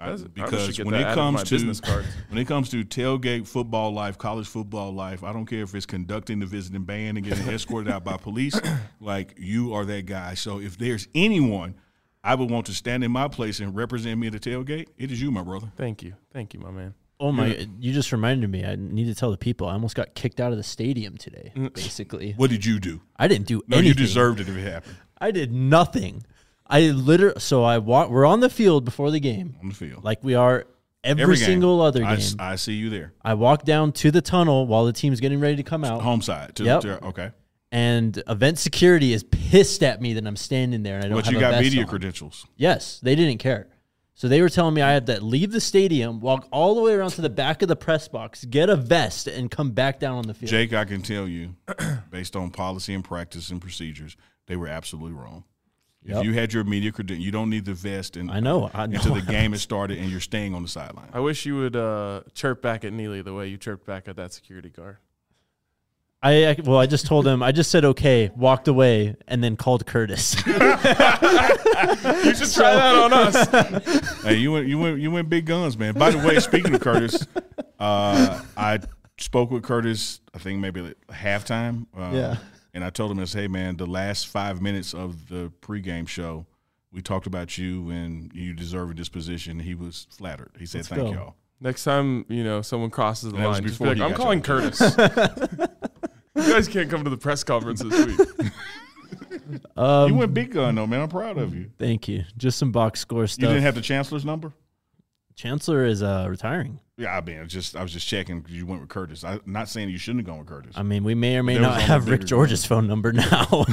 I, That's- I because should get when that it added to comes my to business cards. when it comes to tailgate football life, college football life, I don't care if it's conducting the visiting band and getting escorted out by police. Like, you are that guy. So if there's anyone I would want to stand in my place and represent me at the tailgate, it is you, my brother. Thank you. Thank you, my man. Oh my! You just reminded me. I need to tell the people. I almost got kicked out of the stadium today. Basically, What did you do? I didn't do No, anything. you deserved it if it happened I did nothing. I literally. So I wa- we're on the field before the game, on the field. like we are every, Every game. single other I, game. s- I see you there. I walk down to the tunnel while the team's getting ready to come out, Home side. To, Yep. to- okay. and event security is pissed at me that I'm standing there and I don't But have you a got vest media on. credentials. Yes, they didn't care. So they were telling me I had to leave the stadium, walk all the way around to the back of the press box, get a vest, and come back down on the field. Jake, I can tell you, based on policy and practice and procedures, they were absolutely wrong. Yep. If you had your media credential, you don't need the vest and I know. I know. until the game has started and you're staying on the sideline. I wish you would uh, chirp back at Neely the way you chirped back at that security guard. I, I well, I just told him. I just said okay, walked away, and then called Curtis. You should try that on us. Hey, you went, you went, you went big guns, man. By the way, speaking of Curtis, uh, I spoke with Curtis. I think maybe at halftime. Uh, Yeah. And I told him, I said, hey, man, the last five minutes of the pregame show, we talked about you and you deserving this position. He was flattered. He said, Let's thank go. y'all. Next time, you know, someone crosses the That was line, just be before like, he I'm got calling you. Curtis. You guys can't come to the press conference this week. Um, You went big gun, though, man. I'm proud of you. Thank you. Just some box score You stuff. didn't have the chancellor's number? Chancellor is uh, retiring. Yeah, I mean, it's just I was just checking because you went with Curtis. I'm not saying you shouldn't have gone with Curtis. I mean, we may or may There was not only have bigger Rick George's phone number now.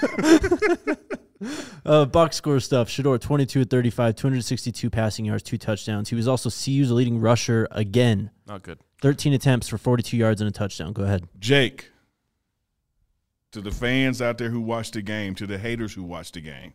uh, box score stuff. Shador, twenty-two at thirty-five, two hundred sixty-two passing yards, two touchdowns. He was also C U's leading rusher again. Not good. thirteen attempts for forty-two yards and a touchdown. Go ahead. Jake, to the fans out there who watched the game, to the haters who watched the game,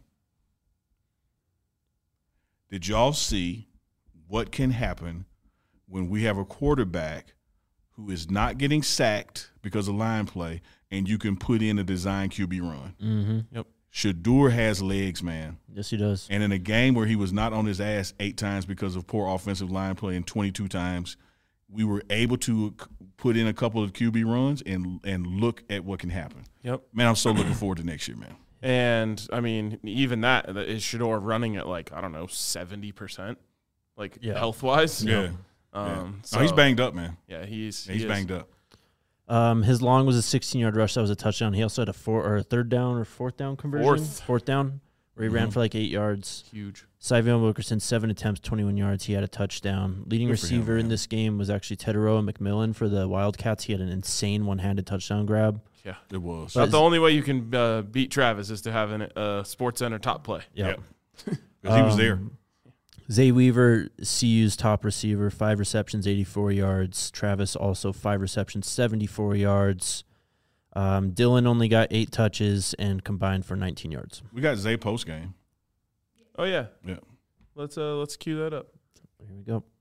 did y'all see what can happen when we have a quarterback who is not getting sacked because of line play and you can put in a design Q B run? Mm-hmm. Yep. Shador has legs, man. Yes, he does. And in a game where he was not on his ass eight times because of poor offensive line play and twenty-two times, we were able to c- put in a couple of Q B runs and and look at what can happen. Yep. Man, I'm so looking forward to next year, man. And, I mean, even that, that is Shador running at, like, I don't know, seventy percent, like, Yeah. health-wise. Yeah. Um, yeah. So, No, he's banged up, man. Yeah, he's, Yeah, he he's is. banged up. Um, his long was a sixteen-yard rush. That was a touchdown. He also had a four or a third down or fourth down conversion. Fourth. Fourth down, where he ran Mhm. for like eight yards. Huge. Syvion Wilkerson, seven attempts, twenty-one yards. He had a touchdown. Leading Good for him, receiver in man. this game was actually Teteroa McMillan for the Wildcats. He had an insane one-handed touchdown grab. Yeah. It was. But- Not the only way you can uh, beat Travis is to have a uh, Sports Center top play. Yeah. Because he was there. Um, Zay Weaver, C U's top receiver, five receptions, eighty-four yards. Travis also five receptions, seventy-four yards. Um, Dylan only got eight touches and combined for nineteen yards. We got Zay post game. Oh, yeah. Yeah. Let's uh, let's cue that up. Here we go.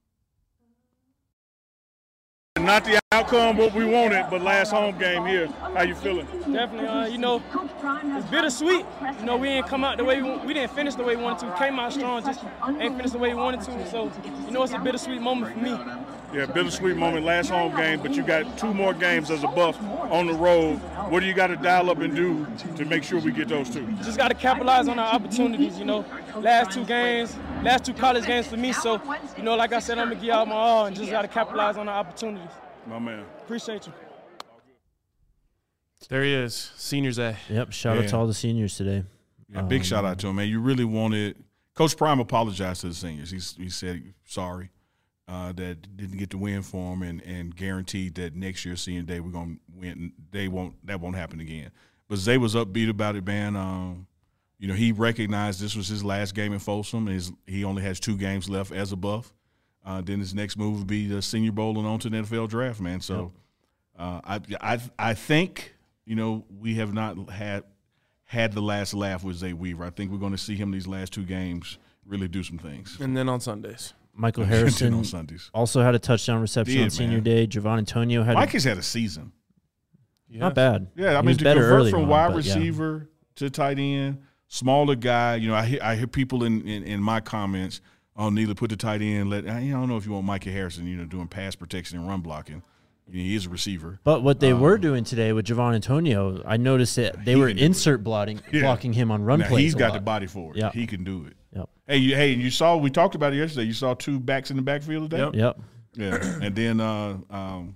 Not the outcome what we wanted, but last home game here. How you feeling? Definitely, uh, you know, it's bittersweet. You know, we didn't come out the way we, we didn't finish the way we wanted to. Came out strong, just ain't finished the way we wanted to. So, you know, it's a bittersweet moment for me. Yeah, bittersweet moment last home game, but you got two more games as a Buff on the road. What do you got to dial up and do to make sure we get those two? Just got to capitalize on our opportunities. You know, last two games, last two college games for me. So, you know, like I said, I'm gonna give out my all and just got to capitalize on our opportunities. My man. Appreciate you. There he is, Seniors A. Yep. Shout out Yeah. to all the seniors today. Yeah, big Um, shout out to him, man. You really wanted – Coach Prime apologized to the seniors. He's, he said sorry uh, that didn't get the win for him and, and guaranteed that next year, senior day, we're going to win. They won't – that won't happen again. But Zay was upbeat about it, man. Um, you know, he recognized this was his last game in Folsom. His, he only has two games left as a Buff. Uh, then his next move would be the Senior Bowl and on to the N F L draft, man. So uh, I, I I think, you know, we have not had had the last laugh with Zay Weaver. I think we're going to see him these last two games really do some things. And then on Sundays. Michael on Harrison Sundays. also had a touchdown reception Did, on senior man. day. Javon Antonio had Mike has had a season. Yeah. not bad. Yeah, I He mean, was to better convert early from on, wide but yeah. receiver to tight end, smaller guy. You know, I hear, I hear people in, in, in my comments oh, Neely put the tight end. Let I don't know if you want Micah Harrison, you know, doing pass protection and run blocking. He is a receiver. But what they um, were doing today with Javon Antonio, I noticed that they were insert blocking, yeah. blocking him on run now, plays. He's got lot. the body for it. Yep. He can do it. Yep. Hey, you, hey, you saw we talked about it yesterday. You saw two backs in the backfield today. Yep. Yep. Yeah, and then uh, um,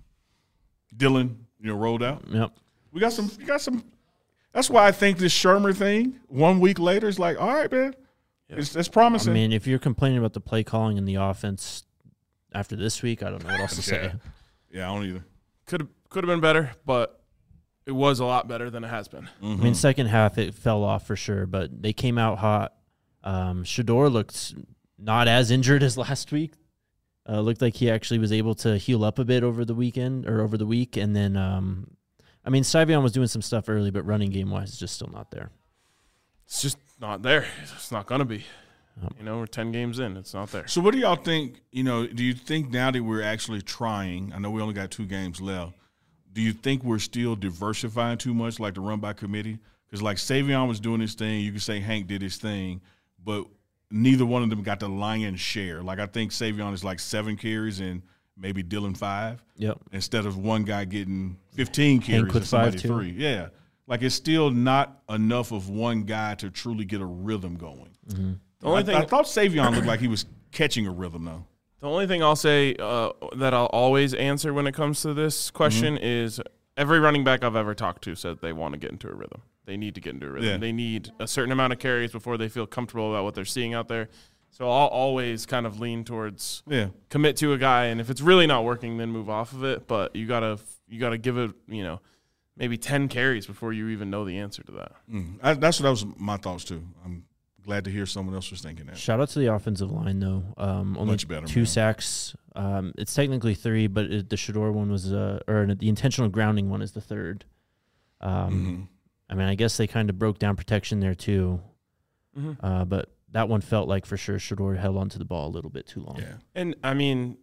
Dylan, you know, rolled out. Yep. We got some. We got some. That's why I think this Shermer thing. One week later, is like, all right, man, Yeah. it's, it's promising. I mean, if you're complaining about the play calling in the offense after this week, I don't know what else to say. yeah. yeah, I don't either. Could have could have been better, but it was a lot better than it has been. Mm-hmm. I mean, second half it fell off for sure, but they came out hot. Um, Shador looked not as injured as last week. Uh, looked like he actually was able to heal up a bit over the weekend or over the week, and then um, I mean, Savion was doing some stuff early, but running game wise, it's just still not there. It's just not there. It's not gonna be. Yep. You know, we're ten games in. It's not there. So, what do y'all think? You know, do you think now that we're actually trying? I know we only got two games left. Do you think we're still diversifying too much, like the run by committee? Because like Savion was doing his thing, you could say Hank did his thing, but neither one of them got the lion's share. Like I think Savion is like seven carries and maybe Dylan five. Yep. Instead of one guy getting fifteen carries with and somebody five, too. three. Yeah. Like it's still not enough of one guy to truly get a rhythm going. Mm-hmm. The only I, thing I thought Savion looked like he was catching a rhythm though. The only thing I'll say uh, that I'll always answer when it comes to this question Mm-hmm. is every running back I've ever talked to said they want to get into a rhythm. They need to get into a rhythm. Yeah. They need a certain amount of carries before they feel comfortable about what they're seeing out there. So I'll always kind of lean towards Yeah. commit to a guy, and if it's really not working, then move off of it. But you gotta you gotta give it, you know, maybe ten carries before you even know the answer to that. Mm. I, that's what that was my thoughts too. I'm glad to hear someone else was thinking that. Shout out to the offensive line though. Um, only Much better, two man. sacks. Um, it's technically three, but it, the Shador one was uh, or the intentional grounding one is the third. Um, Mm-hmm. I mean, I guess they kind of broke down protection there too. Mm-hmm. Uh, but that one felt like for sure Shador held onto the ball a little bit too long. Yeah. And I mean,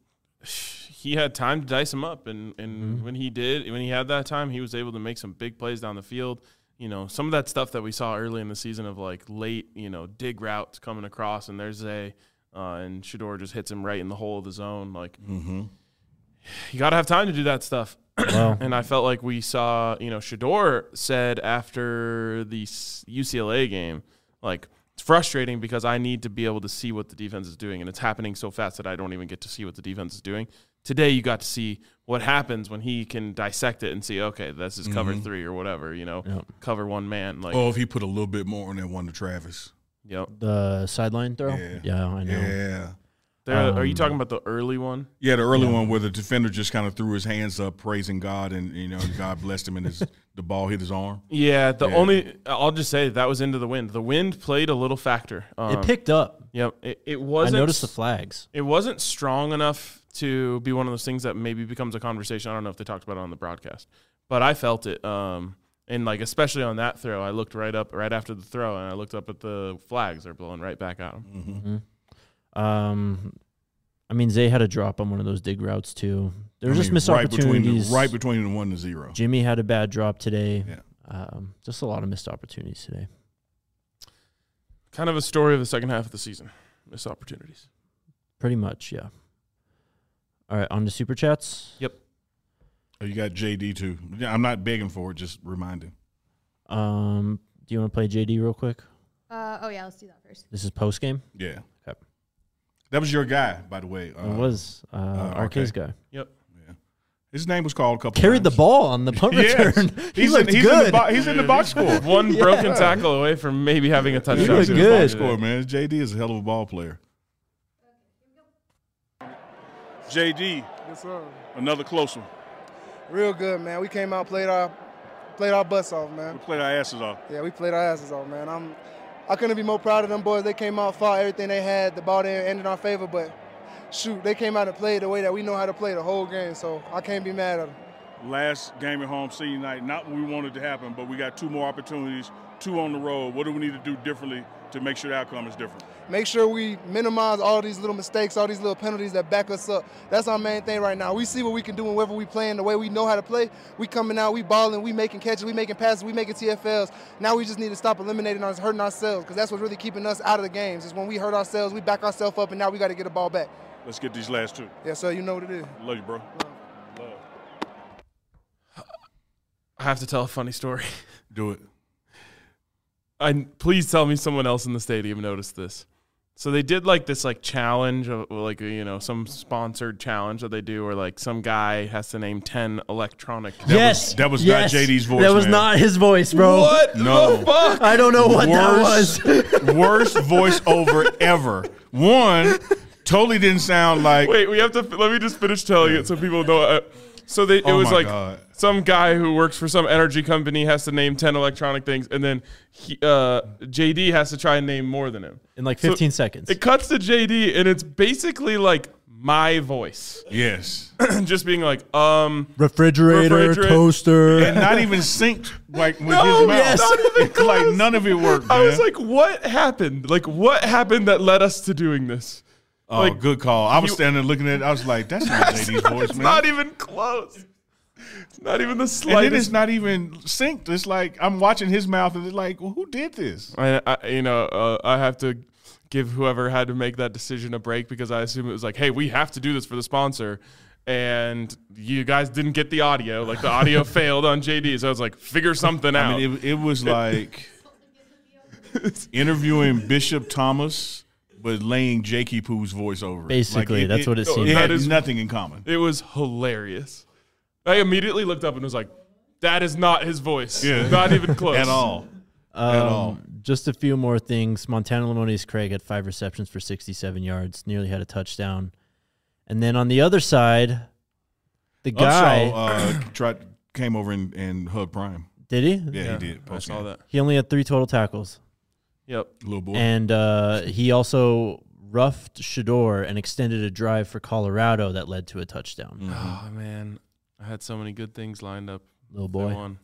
he had time to dice him up, and, and Mhm. when he did, when he had that time, he was able to make some big plays down the field. You know, some of that stuff that we saw early in the season of like late, you know, dig routes coming across, and there's a uh, and Shador just hits him right in the hole of the zone. Like, Mm-hmm. you got to have time to do that stuff. Well, And I felt like we saw, you know, Shador said after the U C L A game, like, it's frustrating because I need to be able to see what the defense is doing, and it's happening so fast that I don't even get to see what the defense is doing. Today, you got to see what happens when he can dissect it and see, okay, this is cover Mhm. three or whatever, you know, Yep. cover one man. Like, Oh, if he put a little bit more on that one to Travis. yep. the sideline throw. Yeah. I know. Yeah. There, are you Um, talking about the early one? Yeah, the early Yeah. one where the defender just kind of threw his hands up, praising God, and you know God blessed him, and his the ball hit his arm. Yeah, the Yeah. only I'll just say that was into the wind. The wind played a little factor. Um, It picked up. Yep, it, it I wasn't. noticed the flags. It wasn't strong enough to be one of those things that maybe becomes a conversation. I don't know if they talked about it on the broadcast, but I felt it. Um, and like especially on that throw, I looked right up right after the throw, and I looked up at the flags. They're blowing right back at him. Mm-hmm. Um, I mean, Zay had a drop on one of those dig routes too. There were I just mean, missed right between the, opportunities. right between the one to zero. Jimmy had a bad drop today. Yeah. Um, just a lot of missed opportunities today. Kind of a story of the second half of the season. Missed opportunities. Pretty much, yeah. All right, on to super chats. Oh, you got J D too. Yeah, I'm not begging for it. Just remind him. Um, do you want to play J D real quick? Uh, oh, yeah, let's do that first. This is post game. Yeah. Okay. That was your guy, by the way. Uh, it was uh, uh, R K's okay. guy. Yeah. His name was called a couple. Carried the times. ball on the punt Yes. return. he He's, looked in, he's, good. In the bo- he's in the box score. One Yeah. broken tackle away from maybe having a touchdown. looked He's in the good. box score, man. J D is a hell of a ball player. J D, Yes, sir. another close one. Real good, man. We came out, played our, played our butts off, We man. played our asses off. Yeah, we played our asses off, man. I'm, I couldn't be more proud of them boys. They came out, fought everything they had. The ball didn't end in our favor, but shoot, they came out and played the way that we know how to play the whole game. So I can't be mad at them. Last game at home, senior night, not what we wanted to happen, but we got two more opportunities, two on the road. What do we need to do differently to make sure the outcome is different? Make sure we minimize all these little mistakes, all these little penalties that back us up. That's our main thing right now. We see what we can do whenever we playing the way we know how to play. We coming out, we balling, we making catches, we making passes, we making T F Ls. Now we just need to stop eliminating us, hurting ourselves, because that's what's really keeping us out of the games. Is when we hurt ourselves, we back ourselves up, and now we got to get the ball back. Let's get these last two. Yeah, sir, you know what it is. Love you, bro. Love. I have to tell a funny story. Do it. I please tell me someone else in the stadium noticed this. So they did like this like challenge, of, like you know, some sponsored challenge that they do, where like some guy has to name ten electronic. That yes, was, that was yes. not J D's voice. That was man. not his voice, bro. What No. the fuck? I don't know what worst, that was. worst voiceover ever. One, totally didn't sound like. Wait, we have to. Let me just finish telling it so people know. Uh, so they, it Oh was my like God. some guy who works for some energy company has to name ten electronic things, and then he, uh, J D has to try and name more than him. In like So fifteen seconds. It cuts to J D, and it's basically like my voice, Yes. just being like, um, Refrigerator, Refrigerator. toaster. And not even synced like with No, his mouth. yes. Not even It's like close. none of it worked, man. I was like, what happened? Like, what happened that led us to doing this? oh, like, good call. I was you- standing there looking at it. I was like, that's not J D's voice, It's man. not even close. It's not even the and slightest. then it's not even synced. It's like I'm watching his mouth and it's like, well, who did this? I, I you know, uh, I have to give whoever had to make that decision a break, because I assume it was like, hey, we have to do this for the sponsor. And you guys didn't get the audio. Like, the audio failed on J D. So I was like, figure something out. I mean, it, it was like interviewing Bishop Thomas, but laying Jakey Poo's voice over it. Basically, Like, that's what it seemed It like. had That is- nothing in common. It was hilarious. I immediately looked up and was like, that is not his voice. Yeah. Not even close. At all. At all. Um, just a few more things. Montana Lemonious Craig had five receptions for sixty-seven yards, nearly had a touchdown. And then on the other side, the guy, Upshaw, uh, tried, came over and, and hugged Prime. did he? Yeah, Yeah, he did. I saw Post-game. that. He only had three total tackles. Yep. Little boy. And uh, he also roughed Shador and extended a drive for Colorado that led to a touchdown. Mm. Oh, man. I had so many good things lined up. Little They boy. won.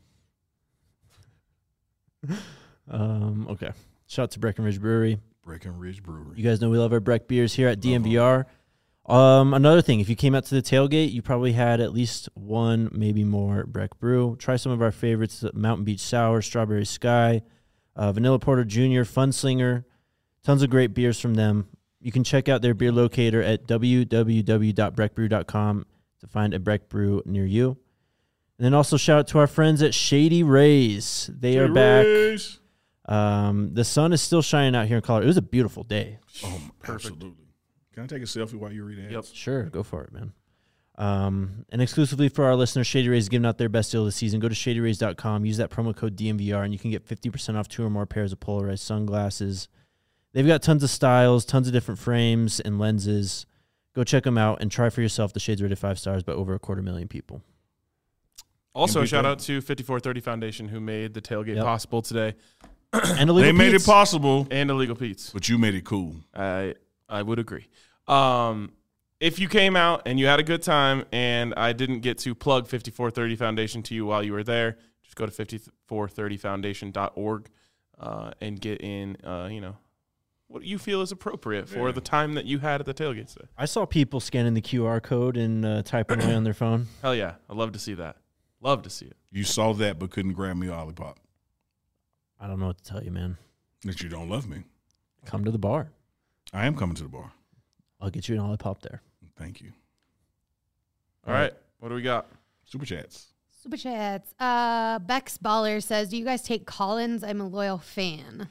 Um, okay. Shout out to Breckenridge Brewery. Breckenridge Brewery. You guys know we love our Breck beers here at D M V R. Um, another thing, if you came out to the tailgate, you probably had at least one, maybe more Breck brew. Try some of our favorites: Mountain Beach Sour, Strawberry Sky, uh, Vanilla Porter Junior, Funslinger. Tons of great beers from them. You can check out their beer locator at w w w dot breck brew dot com to find a Breck brew near you. And then also shout out to our friends at Shady Rays. They are back. Rays. Um, the sun is still shining out here in Colorado. It was a beautiful day. Oh, absolutely. Can I take a selfie while you read ads? Yep. Sure, go for it, man. Um, and exclusively for our listeners, Shady Rays is giving out their best deal of the season. Go to shady rays dot com, use that promo code D M V R, and you can get fifty percent off two or more pairs of polarized sunglasses. They've got tons of styles, tons of different frames and lenses. Go check them out and try for yourself. The Shades rated five stars by over a quarter million people. Also, M V P. shout out to fifty-four thirty Foundation, who made the tailgate Yep. possible today, And They made Pete's. it possible, and Illegal Pete's. but you made it cool. I I would agree. Um, if you came out and you had a good time, and I didn't get to plug fifty-four thirty Foundation to you while you were there, just go to fifty-four thirty foundation dot org uh, and get in. Uh, you know, what you feel is appropriate for Yeah. the time that you had at the tailgate today. I saw people scanning the Q R code and uh, typing away on their phone. Hell yeah, I'd love to see that. Love to see it. You saw that, but couldn't grab me a lollipop. I don't know what to tell you, man. That you don't love me. Come to the bar. I am coming to the bar. I'll get you an lollipop there. Thank you. All right, what do we got? Super chats. Super chats. Uh, Bex Baller says, "Do you guys take Collins? I'm a loyal fan."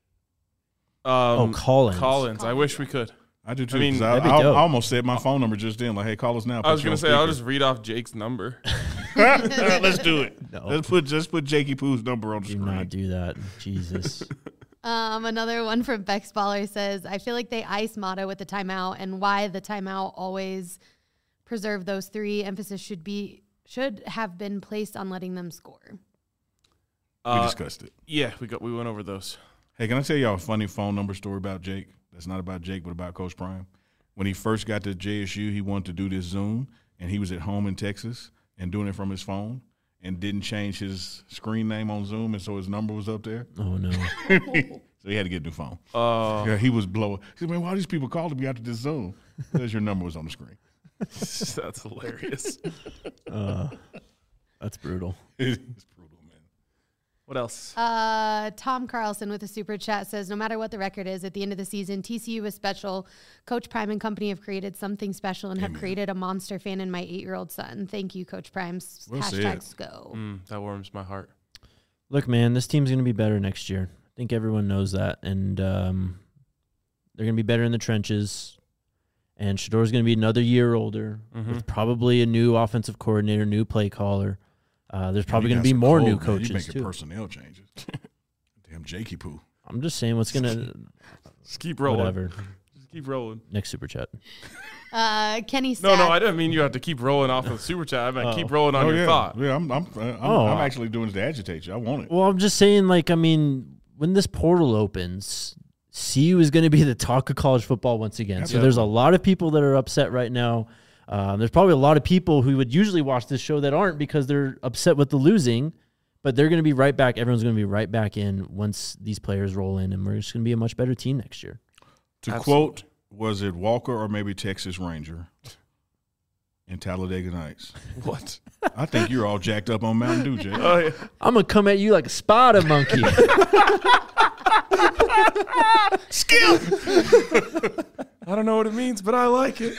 Oh, Um, Collins. Collins. I wish we could. I do too. I mean, 'cause I, that'd be I, I dope. almost said my phone number just then. Like, hey, call us now. I was Put you gonna on say I'll speaker. just read off Jake's number. Let's do it. No. Let's put just put Jakey Poo's number on the Do screen. not do that. Jesus. Um, another one from Bex Baller says, "I feel like they ice Mata with the timeout, and why the timeout always preserve those three. Emphasis should be should have been placed on letting them score." we Uh, discussed it. yeah, we got we went over those. Hey, can I tell y'all a funny phone number story about Jake? That's not about Jake, but about Coach Prime. When he first got to J S U, he wanted to do this Zoom, and he was at home in Texas and doing it from his phone and didn't change his screen name on Zoom, and so his number was up there. Oh, no. So So he had to get a new phone. Oh, Yeah, he was blowing. He said, man, why are these people calling me after this Zoom? Because your number was on the screen. that's hilarious. Uh, that's brutal. It's brutal, man. What else? Uh, Tom Carlson with a super chat says, no matter what the record is, at the end of the season, T C U is special. Coach Prime and company have created something special and have Amen. created a monster fan in my eight-year-old son. Thank you, Coach Prime. Well Hashtags go. Mm, that warms my heart. Look, man, this team's going to be better next year. I think everyone knows that. And um, they're going to be better in the trenches. And Shador's going to be another year older Mhm. with probably a new offensive coordinator, new play caller. Uh, there's probably You going to got be some more cold, new man. coaches, You making too. personnel changes. Damn Jakey poo. I'm just saying what's going to Just keep rolling. whatever. Just keep rolling. Next super chat. Uh, Kenny No, Stats. no, I didn't mean you have to keep rolling off of super chat. I meant Oh. keep rolling on Oh, your yeah. thought. Yeah, I'm, I'm, I'm, Oh, I'm I- actually doing this to agitate you. I want it. Well, I'm just saying, like, I mean, when this portal opens, C U is going to be the talk of college football once again. So there's a lot of people that are upset right now. Um, there's probably a lot of people who would usually watch this show that aren't because they're upset with the losing, but they're going to be right back. Everyone's going to be right back in once these players roll in, and we're just going to be a much better team next year. To Absolutely. quote, was it Walker or maybe Texas Ranger in Talladega Nights? What? I think you're all jacked up on Mountain Dew, Jay. Oh, yeah. I'm going to come at you like a spider monkey. Skill. I don't know what it means, but I like it.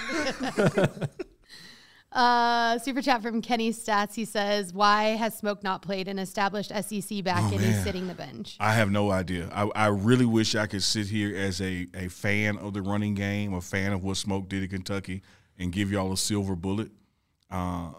Uh, super chat from Kenny Stats. He says, why has Smoke not played an established S E C back Oh, and he's man. sitting the bench? I have no idea. I, I really wish I could sit here as a, a fan of the running game, a fan of what Smoke did at Kentucky, and give y'all a silver bullet. Uh,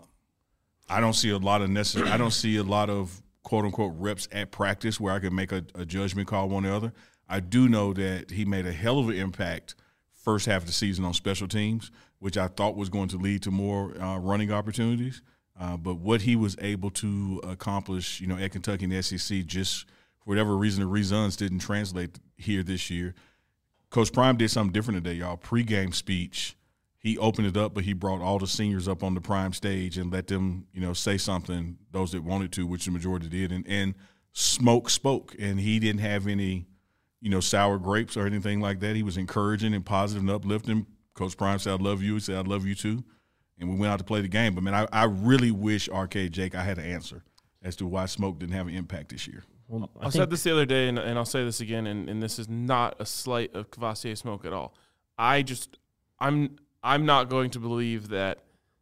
I don't see a lot of necessary. I don't see a lot of quote unquote reps at practice where I could make a, a judgment call one or the other. I do know that he made a hell of an impact first half of the season on special teams, which I thought was going to lead to more uh, running opportunities. Uh, but what he was able to accomplish, you know, at Kentucky and the S E C, just for whatever reason, the reasons didn't translate here this year. Coach Prime did something different today, y'all. Pre-game speech, he opened it up, but he brought all the seniors up on the Prime stage and let them, you know, say something, those that wanted to, which the majority did. And, and Smoke spoke, and he didn't have any, you know, sour grapes or anything like that. He was encouraging and positive and uplifting. Coach Prime said, I love you. He said, I love you too. And we went out to play the game. But, man, I, I really wish, R K, Jake, I had an answer as to why Smoke didn't have an impact this year. Well, I, I said this the other day, and, and I'll say this again, and, and this is not a slight of Kvassier Smoke at all. I just – I'm I'm not going to believe that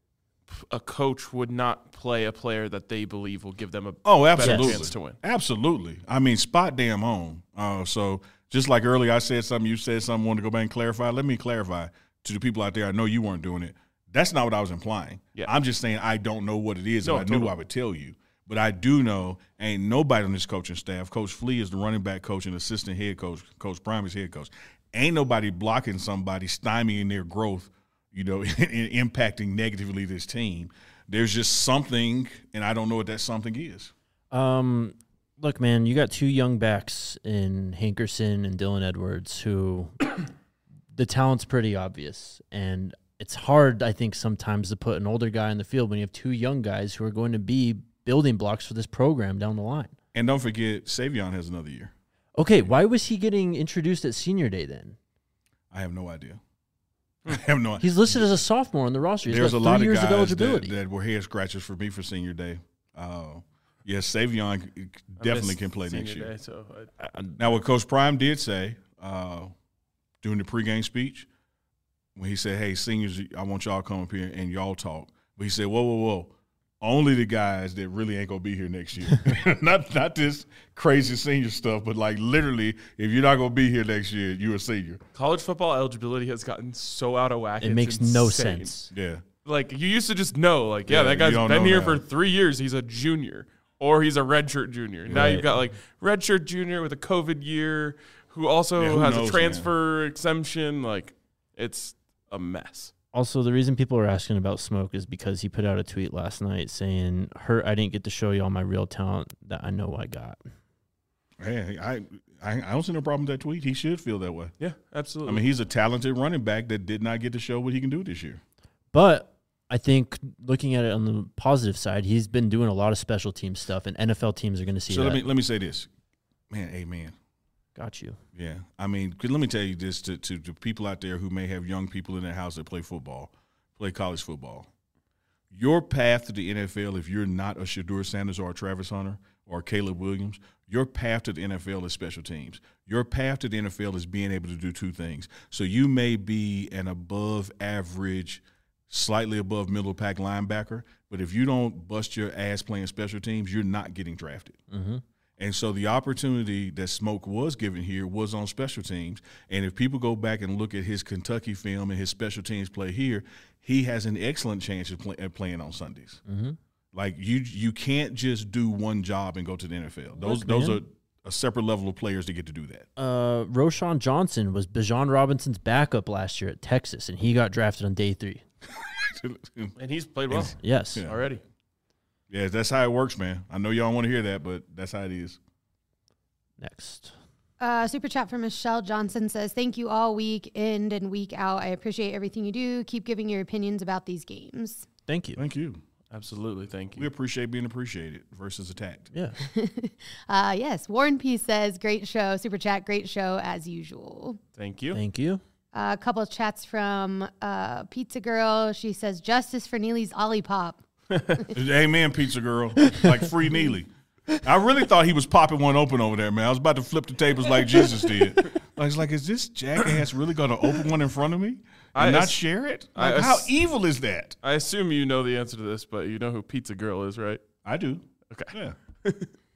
a coach would not play a player that they believe will give them a Oh, better absolutely. chance to win. Absolutely. I mean, spot damn on. Uh, so just like earlier I said something, you said something, wanted to go back and clarify. Let me clarify to the people out there. I know you weren't doing it. That's not what I was implying. Yeah. I'm just saying I don't know what it is. No, If I totally. knew, I would tell you. But I do know ain't nobody on this coaching staff. Coach Flea is the running back coach and assistant head coach. Coach Prime is head coach. Ain't nobody blocking somebody, stymieing their growth, you know, and impacting negatively this team. There's just something, and I don't know what that something is. Um, look, man, you got two young backs in Hankerson and Dylan Edwards who the talent's pretty obvious. And it's hard, I think, sometimes to put an older guy in the field when you have two young guys who are going to be building blocks for this program down the line. And don't forget, Savion has another year. Okay, why was he getting introduced at senior day then? I have no idea. I have no idea. He's listed as a sophomore on the roster. He's There's got a three lot of years guys of eligibility. that, that were head scratchers for me for senior day. Uh, yes, Savion I definitely missed can play senior next year. day, so I, Now, what Coach Prime did say uh, during the pregame speech, when he said, hey, seniors, I want y'all to come up here and y'all talk. But he said, whoa, whoa, whoa. Only the guys that really ain't going to be here next year. not not this crazy senior stuff, but like literally, if you're not going to be here next year, you're a senior. college football eligibility has gotten so out of whack. It it's makes no insane. sense. Yeah. Like, you used to just know, like, yeah, Yeah, that you guy's don't been know here now. for three years. He's a junior, or he's a redshirt junior. Now Right. you've got, like, redshirt junior with a COVID year who also Yeah, who has knows, a transfer exemption. Like, it's a mess. Also, the reason people are asking about Smoke is because he put out a tweet last night saying, "Hurt, I didn't get to show you all my real talent that I know I got." Hey, I, I I don't see no problem with that tweet. He should feel that way. Yeah, absolutely. I mean, he's a talented running back that did not get to show what he can do this year. But I think looking at it on the positive side, he's been doing a lot of special team stuff, and N F L teams are going to see So that. let me let me say this, man. Amen. Got you. Yeah. I mean, 'cause let me tell you this to, to, to people out there who may have young people in their house that play football, play college football. Your path to the N F L, if you're not a Shedeur Sanders or a Travis Hunter or Caleb Williams, your path to the N F L is special teams. Your path to the N F L is being able to do two things. So you may be an above average, slightly above middle pack linebacker, but if you don't bust your ass playing special teams, you're not getting drafted. Mm-hmm. And so the opportunity that Smoke was given here was on special teams. And if people go back and look at his Kentucky film and his special teams play here, he has an excellent chance of play, at playing on Sundays. Mm-hmm. Like you, you can't just do one job and go to the N F L. Those, Look, those man. are a separate level of players to get to do that. Uh, Roshan Johnson was Bijan Robinson's backup last year at Texas, and he got drafted on day three. And he's played well Yes. Yeah. already. Yeah, that's how it works, man. I know y'all want to hear that, but that's how it is. Next. Uh, super chat from Michelle Johnson says, thank you all week in and week out. I appreciate everything you do. Keep giving your opinions about these games. Thank you. Thank you. Absolutely. Thank We you. appreciate being appreciated versus attacked. Yeah. Uh, yes, Warren P says, great show. Super chat, great show as usual. Thank you. Thank you. Uh, a couple of chats from uh, Pizza Girl. She says, justice for Neely's Olipop. Amen, pizza girl. Like free Neely. I really thought he was popping one open over there, man. I was about to flip the tables like Jesus did. I was like, is this jackass really going to open one in front of me and I not ass- share it? I Like, how ass- evil is that? I assume you know the answer to this, but you know who Pizza Girl is, right? I do. Okay. Yeah.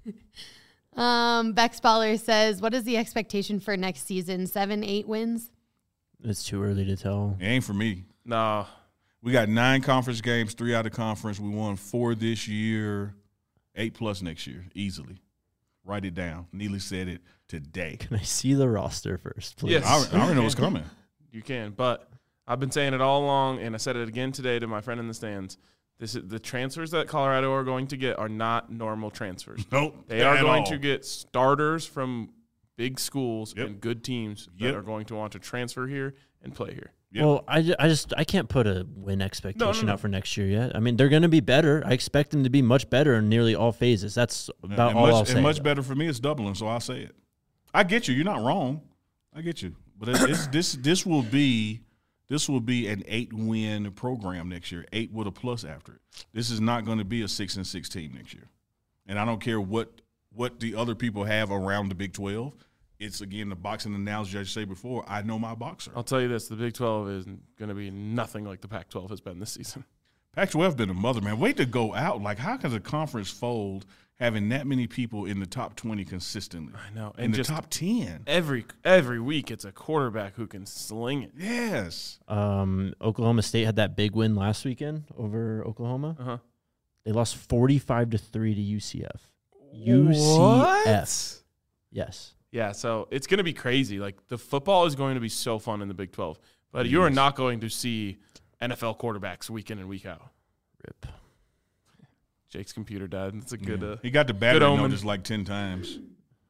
Um, Bex Baller says, what is the expectation for next season? Seven, eight wins? It's too early to tell. It ain't for me. No. We got nine conference games, three out of conference. We won four this year, eight plus next year, easily. Write it down. Neely said it today. Can I see the roster first, please? Yes. I, I already know what's coming. You can, but I've been saying it all along, and I said it again today to my friend in the stands. This is, the transfers that Colorado are going to get are not normal transfers. Nope. They are at going all. to get starters from big schools Yep. and good teams Yep. that are going to want to transfer here and play here. Yep. Well, I, ju- I just I can't put a win expectation no. out for next year yet. I mean, they're going to be better. I expect them to be much better in nearly all phases. That's about and all much, I'll say. And much better for me is doubling, so I'll say it. I get you. You're not wrong. I get you. But it's, it's, this this will be this will be an eight win program next year. Eight with a plus after it. This is not going to be a six and six team next year. And I don't care what what the other people have around the Big twelve. It's, again, the boxing analogy I say before. I know my boxer. I'll tell you this: the Big twelve is going to be nothing like the Pac twelve has been this season. Pac twelve been a mother, man. Wait to go out. Like, how can a conference fold having that many people in the top twenty consistently? I know, In and the just top ten. every every week, it's a quarterback who can sling it. Yes. Um, Oklahoma State had that big win last weekend over Oklahoma. Uh huh. They lost forty-five to three to U C F. U C F. Yes. Yeah, so it's going to be crazy. Like, the football is going to be so fun in the Big twelve, but you are Yes. not going to see N F L quarterbacks week in and week out. Rip. Jake's computer died. That's a good. Yeah. Uh, He got the battery omen. notice like ten times.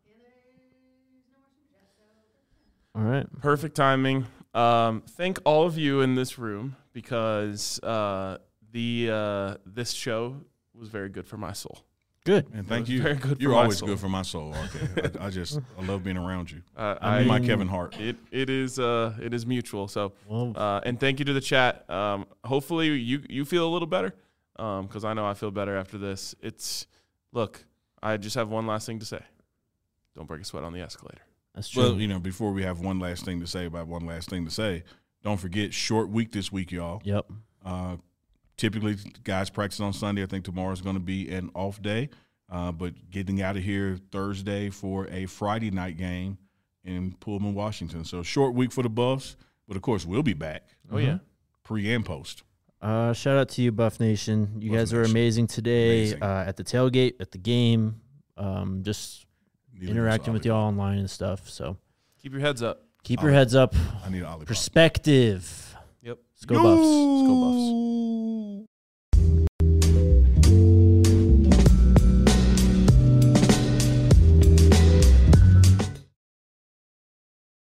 All right. Perfect timing. Um, thank all of you in this room because uh, the uh, this show was very good for my soul. Good. And thank was you. very good for You're my always soul. good for my soul. Okay. I, I just I love being around you. Uh, I You're my mean- Kevin Hart. It it is uh it is mutual. So Well, uh, and thank you to the chat. Um, hopefully you you feel a little better. Um, because I know I feel better after this. It's look. I just have one last thing to say. Don't break a sweat on the escalator. that's true. Well, you know, before we have one last thing to say about one last thing to say, don't forget short week this week, y'all. yep. Uh, typically, guys practice on Sunday. I think tomorrow's going to be an off day. Uh, but getting out of here Thursday for a Friday night game in Pullman, Washington. So short week for the Buffs. But, of course, we'll be back Oh yeah. pre and post. Uh, shout out to you, Buff Nation. You Buff guys were Nation. amazing today Amazing. Uh, at the tailgate, at the game, um, just Need interacting a with y'all online and stuff. So Keep your heads up. keep your Ollie. heads up. I need an Ollie. Perspective. Yep. Let's go, Buffs. Let's go Buffs.